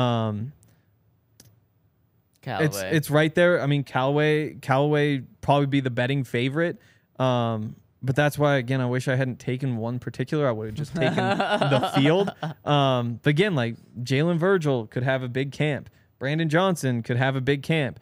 Callaway. It's right there. I mean, Callaway probably be the betting favorite. But that's why, again, I wish I hadn't taken one particular. I would have just taken the field. But again, like Jalen Virgil could have a big camp. Brandon Johnson could have a big camp.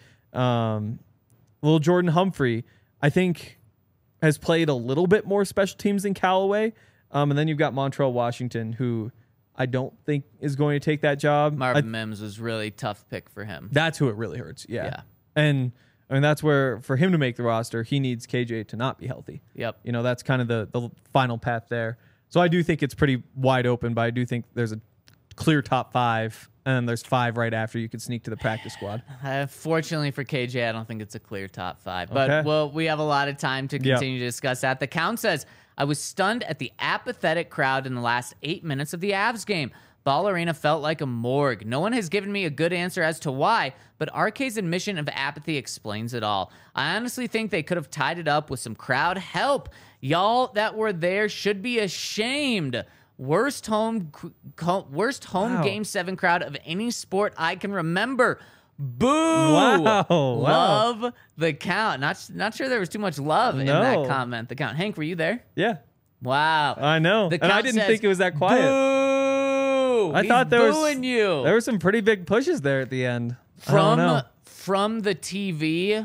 Little Jordan Humphrey, I think, has played a little bit more special teams than Callaway. And then you've got Montrell Washington, who I don't think is going to take that job. Marvin Mims was really tough pick for him. That's who it really hurts. Yeah. And I mean, that's where for him to make the roster, he needs KJ to not be healthy. Yep. You know, that's kind of the final path there. So I do think it's pretty wide open, but I do think there's a clear top 5, and then there's 5 right after you could sneak to the practice squad. Fortunately for KJ, I don't think it's a clear top 5. But well, we have a lot of time to continue to discuss that. The count says, I was stunned at the apathetic crowd in the last 8 minutes of the Avs game. Ball Arena felt like a morgue. No one has given me a good answer as to why, but RK's admission of apathy explains it all. I honestly think they could have tied it up with some crowd help. Y'all that were there should be ashamed. Worst home Game 7 crowd of any sport I can remember. Boo! Wow. Love the count. Not sure there was too much love in that comment. The count. Hank, were you there? Yeah. Wow. I know. And I didn't think it was that quiet. Boo! I thought there were some pretty big pushes there at the end. From the TV,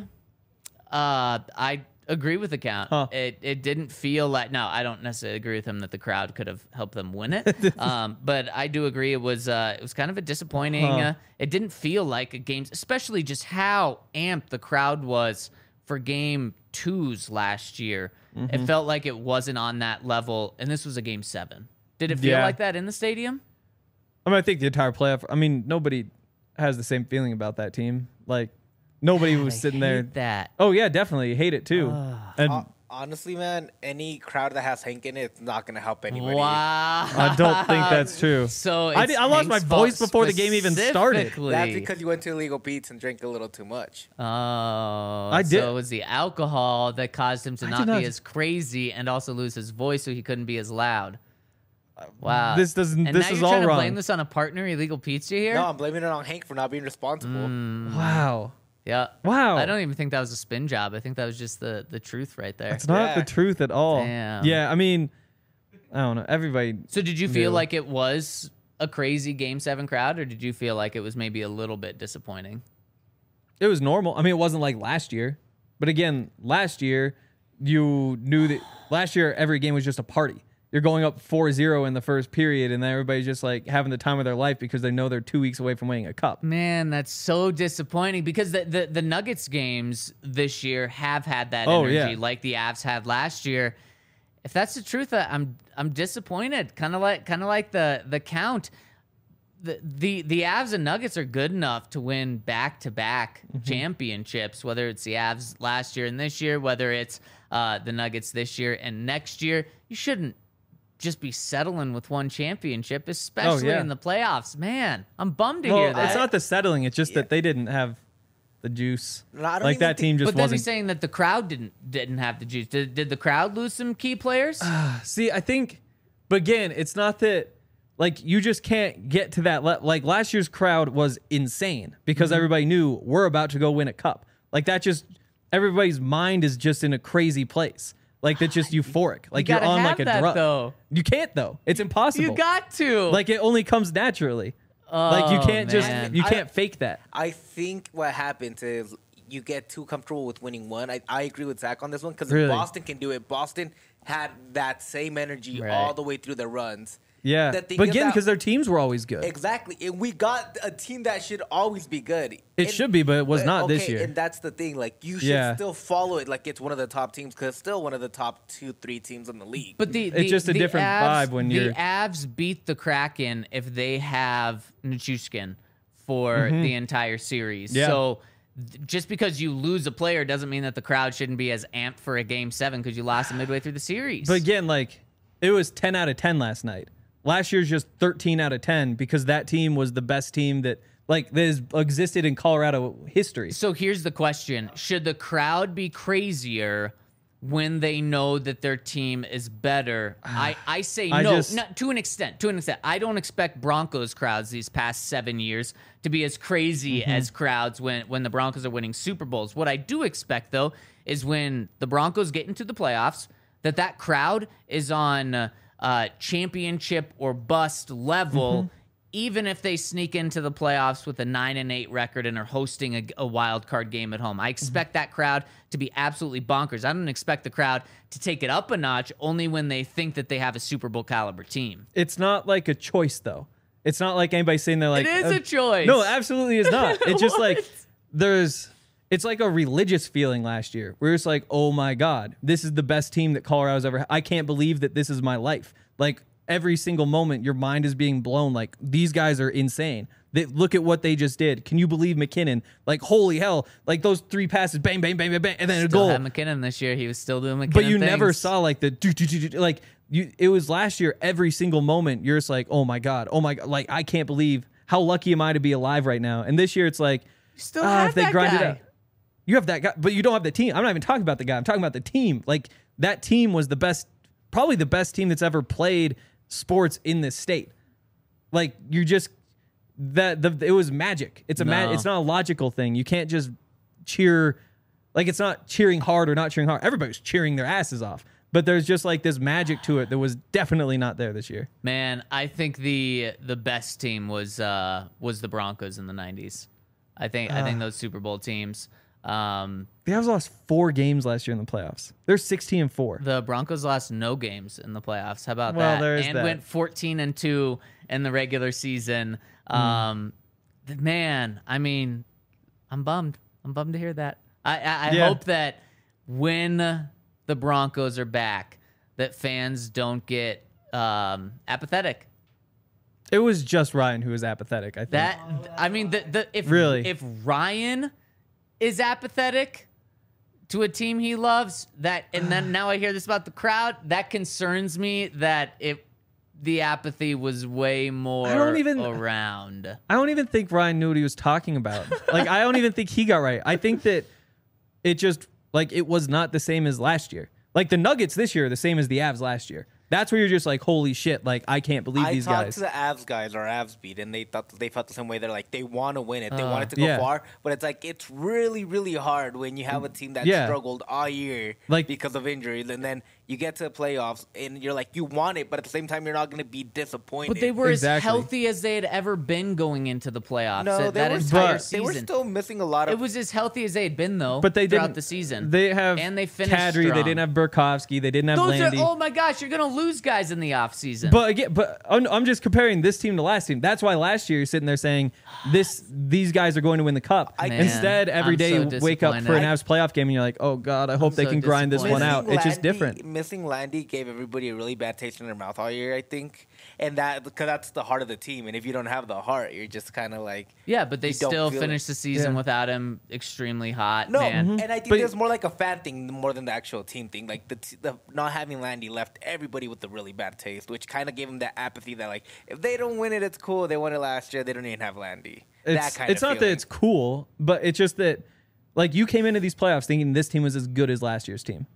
I agree with the count. Huh. It didn't feel like, no, I don't necessarily agree with him that the crowd could have helped them win it. But I do agree it was kind of a disappointing. It didn't feel like a game, especially just how amped the crowd was for game 2s last year. Mm-hmm. It felt like it wasn't on that level, and this was a game 7. Did it feel like that in the stadium? I mean, I think the entire playoff. I mean, nobody has the same feeling about that team. Like, nobody was sitting there. That. Oh yeah, definitely hate it too. And Honestly, man, any crowd that has Hank in it, it's not gonna help anybody. Wow. I don't think that's true. So I lost my Hank's voice fault before the game even started. specifically. That's because you went to Illegal Beats and drank a little too much. Oh, I did. So it was the alcohol that caused him to I not did not- be as crazy and also lose his voice, so he couldn't be as loud. Wow. This doesn't. And This now is you're all trying to wrong. blame this on a partner, Illegal Pizza here? No, I'm blaming it on Hank for not being responsible. Wow. Yeah. Wow. I don't even think that was a spin job. I think that was just the truth right there. It's not Yeah. the truth at all. Damn. Yeah, I mean, I don't know. Everybody. So did you feel knew. like it was a crazy Game 7 crowd, or did you feel like it was maybe a little bit disappointing? It was normal. I mean, it wasn't like last year. But again, last year, you knew that last year every game was just a party. You're going up 4-0 in the first period, and then everybody's just like having the time of their life because they know they're 2 weeks away from winning a cup. Man, that's so disappointing because the Nuggets games this year have had that Oh, energy yeah. like the Avs had last year. If that's the truth, I'm disappointed. Kind of like the count. The Avs and Nuggets are good enough to win back-to-back championships, whether it's the Avs last year and this year, whether it's the Nuggets this year and next year. You shouldn't just be settling with one championship, especially yeah. in the playoffs. Man, I'm bummed to Well, hear that. it's not the settling. It's just that they didn't have the juice. No, I don't Like even that team think- just But then wasn't. he's saying that the crowd didn't have the juice. Did the crowd lose some key players? See, I think, but again, it's not that. Like, you just can't get to that. Like, last year's crowd was insane because everybody knew we're about to go win a cup. Like, that just, everybody's mind is just in a crazy place. Like, that's just euphoric. Like, you're gotta on like have a that, drug. though. You can't, though. It's impossible. You got to. Like, it only comes naturally. Like, you Oh, can't just, man. you can't fake that. I think what happens is you get too comfortable with winning one. I agree with Zach on this one because Really? Boston can do it. Boston had that same energy Right. all the way through their runs. Yeah. The thing But is again, that- because their teams were always good. Exactly. And we got a team that should always be good. It should be, but it was not this year. And that's the thing. Like, you should Yeah. still follow it like it's one of the top teams because it's still one of the top 2-3 teams in the league. But It's just a different vibe when you're- The Avs beat the Kraken if they have Nichushkin for the entire series. Yeah. So just because you lose a player doesn't mean that the crowd shouldn't be as amped for a Game 7 because you lost them midway through the series. But again, like, it was 10 out of 10 last night. Last year's just 13 out of 10 because that team was the best team that has existed in Colorado history. So here's the question. Should the crowd be crazier when they know that their team is better? I say I no, just- not, to an extent. To an extent. I don't expect Broncos crowds these past 7 years to be as crazy as crowds when the Broncos are winning Super Bowls. What I do expect, though, is when the Broncos get into the playoffs, that crowd is on championship or bust level, even if they sneak into the playoffs with a 9-8 record and are hosting a wild card game at home. I expect that crowd to be absolutely bonkers. I don't expect the crowd to take it up a notch only when they think that they have a Super Bowl caliber team. It's not like a choice, though. It's not like anybody saying they're like... It is a choice. No, absolutely is not. It's just like What? it's like a religious feeling last year. We're just like, oh my God, this is the best team that Colorado's ever had. I can't believe that this is my life. Like, every single moment, your mind is being blown. Like, these guys are insane. Look at what they just did. Can you believe McKinnon? Like, holy hell. Like, those 3 passes, bang, bang, bang, bang, bang, and then a Still goal. had McKinnon this year. He was still doing McKinnon But you never things. saw like the like it was last year. Every single moment, you're just like, oh my god, like I can't believe how lucky am I to be alive right now. And this year, it's like, Still have if they that grind it guy. out, you have that guy, but you don't have the team. I'm not even talking about the guy. I'm talking about the team. Like, that team was the best, probably the best team that's ever played sports in this state. Like, you just it was magic. It's No. it's not a logical thing. You can't just cheer. Like, it's not cheering hard or not cheering hard. Everybody's cheering their asses off. But there's just like this magic to it that was definitely not there this year. Man, I think the best team was the Broncos in the 90s. I think those Super Bowl teams. The Avs lost 4 games last year in the playoffs. They're 16-4. The Broncos lost no games in the playoffs. How about Well, that? there is and that. went 14-2 in the regular season. Man, I mean, I'm bummed. I'm bummed to hear that. I Yeah. hope that when the Broncos are back, that fans don't get apathetic. It was just Ryan who was apathetic, I think. That I mean, if Really? if Ryan is apathetic, to a team he loves. And then now I hear this about the crowd. That concerns me that the apathy was way more around. I don't even think Ryan knew what he was talking about. Like, I don't even think he got right. I think that it just, like, it was not the same as last year. Like, the Nuggets this year are the same as the Avs last year. That's where you're just like, holy shit, like, I can't believe these guys. I talked to the Avs guys or Avs beat, and they felt the same way. They're like, they want to win it. They want it to go far. But it's like, it's really, really hard when you have a team that struggled all year because of injuries. And then you get to the playoffs, and you're like, you want it, but at the same time, you're not going to be disappointed. But they were as healthy as they had ever been going into the playoffs. No, they were still missing a lot of... It was as healthy as they had been, though, but they throughout the season. They have and they finished Kadri, strong. they didn't have Burakovsky, they didn't have Landy. Oh my gosh, you're going to lose guys in the offseason. But again, I'm just comparing this team to last team. That's why last year you're sitting there saying these guys are going to win the cup. Instead, every day you wake up for an Avs playoff game and you're like, oh God, I hope they can grind this one out. It's just different. Missing Landy gave everybody a really bad taste in their mouth all year, I think. And that, because that's the heart of the team. And if you don't have the heart, you're just kind of like... Yeah, but they still finished the season without him extremely hot. No, man. And I think it's more like a fan thing more than the actual team thing. Like, the not having Landy left everybody with a really bad taste, which kind of gave them that apathy that, like, if they don't win it, it's cool. They won it last year. They don't even have Landy. It's not that it's cool, but it's just that, like, you came into these playoffs thinking this team was as good as last year's team.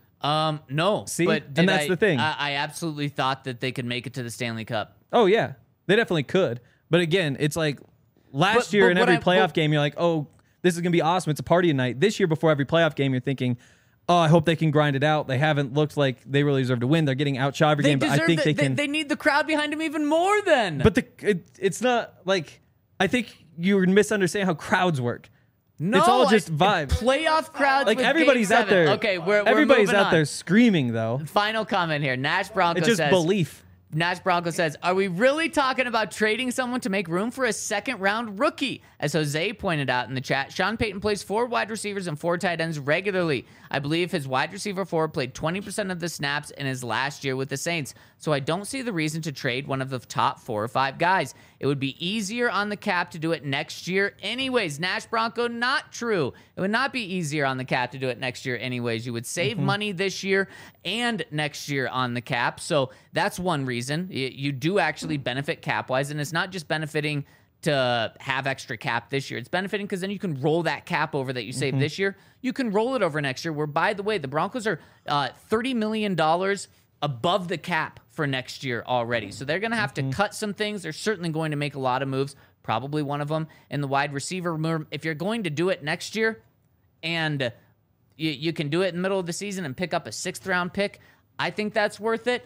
No. See? But and that's the thing. I absolutely thought that they could make it to the Stanley Cup. Oh, yeah. They definitely could. But again, it's like last year in every playoff game, you're like, oh, this is going to be awesome. It's a party night. This year before every playoff game, you're thinking, oh, I hope they can grind it out. They haven't looked like they really deserve to win. They're getting outshot every game, but I think they can. They need the crowd behind them even more then. But it's not like, I think you're misunderstanding how crowds work. No, it's all just vibes. Playoff crowds. Like, with everybody's out there. Okay, we're everybody's moving out on. there screaming though. Final comment here. Nash Bronco it's just says, belief. Nash Bronco says, are we really talking about trading someone to make room for a second-round rookie? As Jose pointed out in the chat, Sean Payton plays 4 wide receivers and 4 tight ends regularly. I believe his wide receiver 4 played 20% of the snaps in his last year with the Saints, so I don't see the reason to trade one of the top 4 or 5 guys. It would be easier on the cap to do it next year anyways. Nash Bronco, not true. It would not be easier on the cap to do it next year anyways. You would save money this year and next year on the cap, so that's one reason. You do actually benefit cap-wise, and it's not just benefiting to have extra cap this year. It's benefiting because then you can roll that cap over that you saved this year. You can roll it over next year, where, by the way, the Broncos are $30 million above the cap for next year already. So they're going to have to cut some things. They're certainly going to make a lot of moves, probably one of them in the wide receiver room. If you're going to do it next year and you can do it in the middle of the season and pick up a 6th-round pick, I think that's worth it.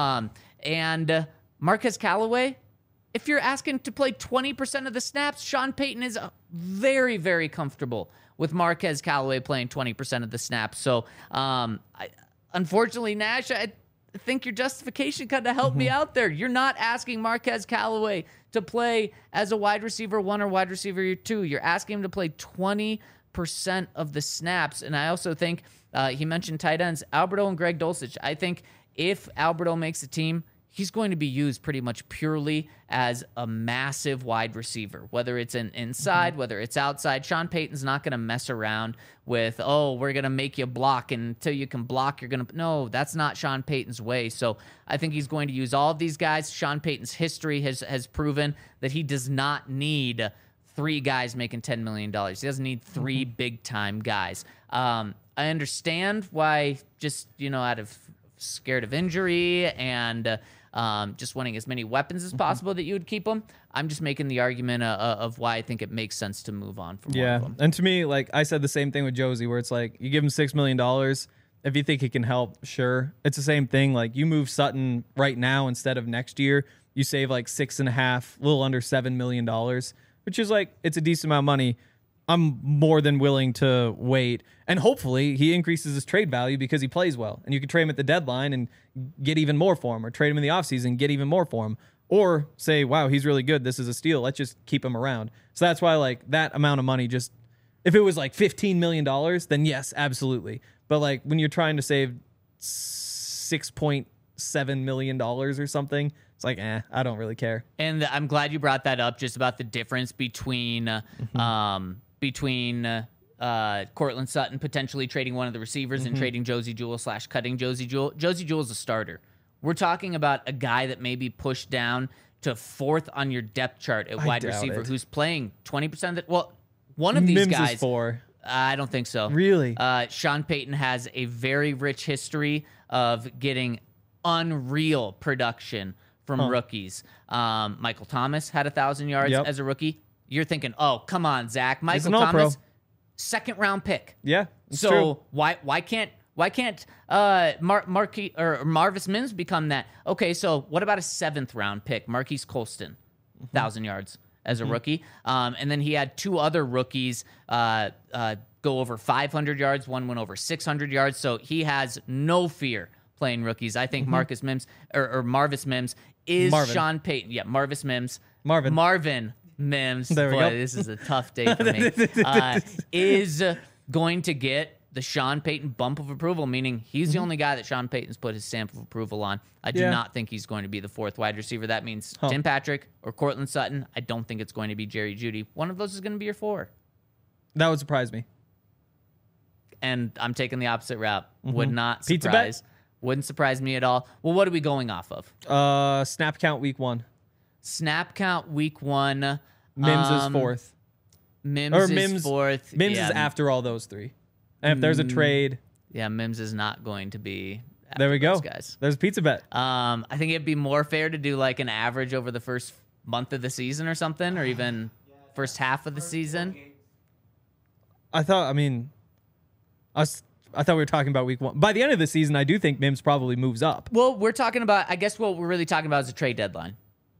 And Marquez Callaway, if you're asking to play 20% of the snaps, Sean Payton is very, very comfortable with Marquez Callaway playing 20% of the snaps. So, unfortunately, Nash, I think your justification kind of helped me out there. You're not asking Marquez Callaway to play as a wide receiver 1 or wide receiver 2. You're asking him to play 20% of the snaps. And I also think he mentioned tight ends, Alberto and Greg Dulcich. I think if Alberto makes the team, he's going to be used pretty much purely as a massive wide receiver, whether it's inside, whether it's outside. Sean Payton's not going to mess around with, oh, we're going to make you block, and until you can block, you're going to... No, that's not Sean Payton's way. So I think he's going to use all of these guys. Sean Payton's history has proven that he does not need 3 guys making $10 million. He doesn't need 3 big-time guys. I understand why, just, out of scared of injury and... just wanting as many weapons as possible that you would keep them. I'm just making the argument of why I think it makes sense to move on from one of them. And to me, like I said the same thing with Josie, where it's like you give him $6 million. If you think he can help, sure. It's the same thing. Like you move Sutton right now instead of next year, you save like 6.5, a little under $7 million, which is like, it's a decent amount of money. I'm more than willing to wait. And hopefully he increases his trade value because he plays well. And you can trade him at the deadline and get even more for him, or trade him in the offseason and get even more for him. Or say, wow, he's really good. This is a steal. Let's just keep him around. So that's why, like, that amount of money just... If it was like $15 million, then yes, absolutely. But like when you're trying to save $6.7 million or something, it's like, I don't really care. And I'm glad you brought that up, just about the difference between Courtland Sutton potentially trading one of the receivers and trading Josey Jewell / cutting Josey Jewell. Josey Jewell's a starter. We're talking about a guy that may be pushed down to 4th on your depth chart at wide receiver who's playing 20% of the... Well, one of these Mims guys... is 4. I don't think so. Really? Sean Payton has a very rich history of getting unreal production from rookies. Michael Thomas had 1,000 yards as a rookie. You're thinking, oh, come on, Zach. Michael Thomas, 2nd-round pick. Yeah, so true. why can't Marvis Mims become that? Okay, so what about a 7th-round pick, Marquise Colston, 1,000 yards as a rookie, and then he had 2 other rookies go over 500 yards. One went over 600 yards, so he has no fear playing rookies. I think Marvis Mims is Marvin. Sean Payton. Yeah, Marvis Mims. Marvin Mims. There we Boy, go. this is a tough day for me. Is going to get the Sean Payton bump of approval, meaning he's the only guy that Sean Payton's put his stamp of approval on. I do not think he's going to be the 4th wide receiver. That means Tim Patrick or Courtland Sutton. I don't think it's going to be Jerry Jeudy. One of those is going to be your 4. That would surprise me. And I'm taking the opposite route. Would not Pizza surprise. bet? Wouldn't surprise me at all. Well, what are we going off of? Snap count week 1. Snap count week 1. Mims is 4th. Mims is 4th. Mims is after all those 3. And if there's a trade... Yeah, Mims is not going to be... There we go. Guys. There's a pizza bet. I think it'd be more fair to do like an average over the first month of the season or something, or even first half of the season. I thought we were talking about week 1. By the end of the season, I do think Mims probably moves up. Well, we're talking about, I guess what we're really talking about is a trade deadline.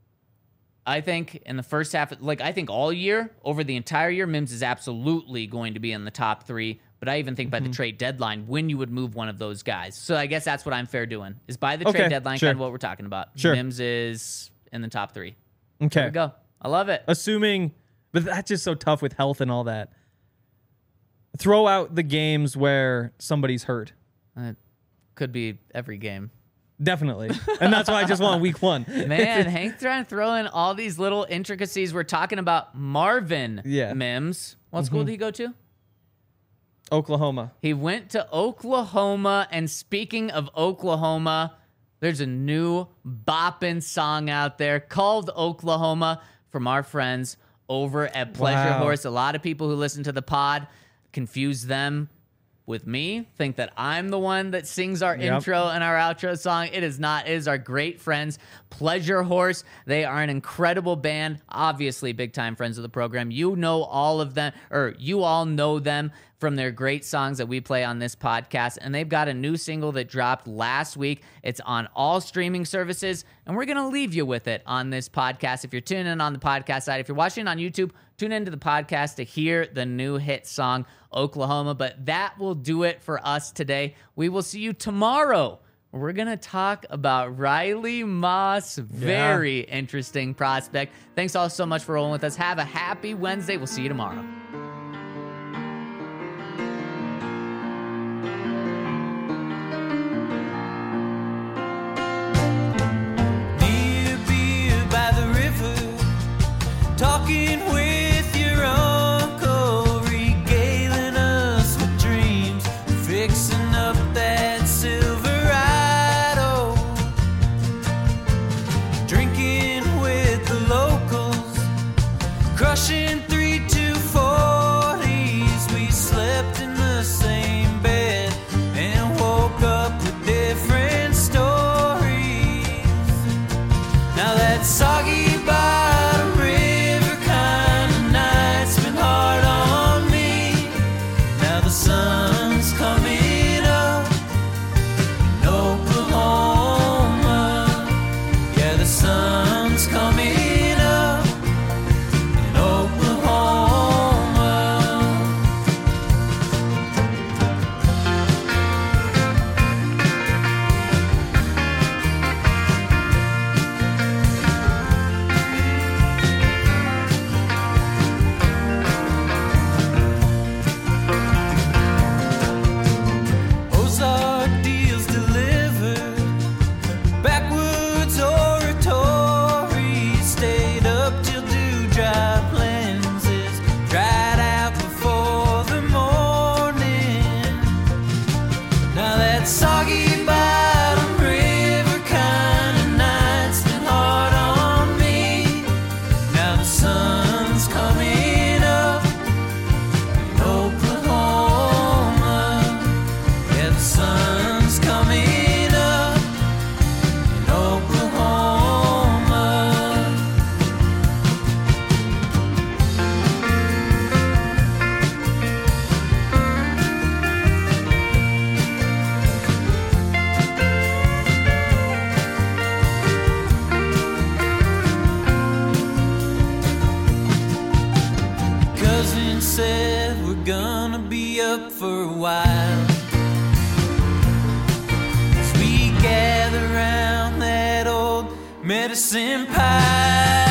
I think in the first half, I think all year, over the entire year, Mims is absolutely going to be in the top 3. But I even think by the trade deadline, when you would move one of those guys. So I guess that's what I'm fair doing, is by the trade deadline, kind of what we're talking about. Sure. Mims is in the top 3. Okay. There we go. I love it. Assuming, but that's just so tough with health and all that. Throw out the games where somebody's hurt. It could be every game. Definitely. And that's why I just want week 1. Man, Hank's trying to throw in all these little intricacies. We're talking about Marvin Mims. What school did he go to? Oklahoma. He went to Oklahoma, and speaking of Oklahoma, there's a new boppin' song out there called Oklahoma from our friends over at Pleasure Horse. A lot of people who listen to the pod confuse them with me, think that I'm the one that sings our intro and our outro song. It is not. It is our great friends, Pleasure Horse. They are an incredible band, obviously big-time friends of the program. You know all of them, or you all know them from their great songs that we play on this podcast, and they've got a new single that dropped last week. It's on all streaming services, and we're going to leave you with it on this podcast. If you're tuning in on the podcast side, if you're watching on YouTube, tune into the podcast to hear the new hit song, Oklahoma. But that will do it for us today. We will see you tomorrow. We're going to talk about Riley Moss. Very interesting prospect. Thanks all so much for rolling with us. Have a happy Wednesday. We'll see you tomorrow. Talking with your uncle, regaling us with dreams, fixing up that Silverado, drinking with the locals, crushing 3 240s. We slept in the same bed and woke up with different stories. Now that soggy by sun's coming up in Oklahoma. Yeah, the sun's coming up in Oklahoma. cousin said we're gonna be up for a while. As we gather around that old medicine pile.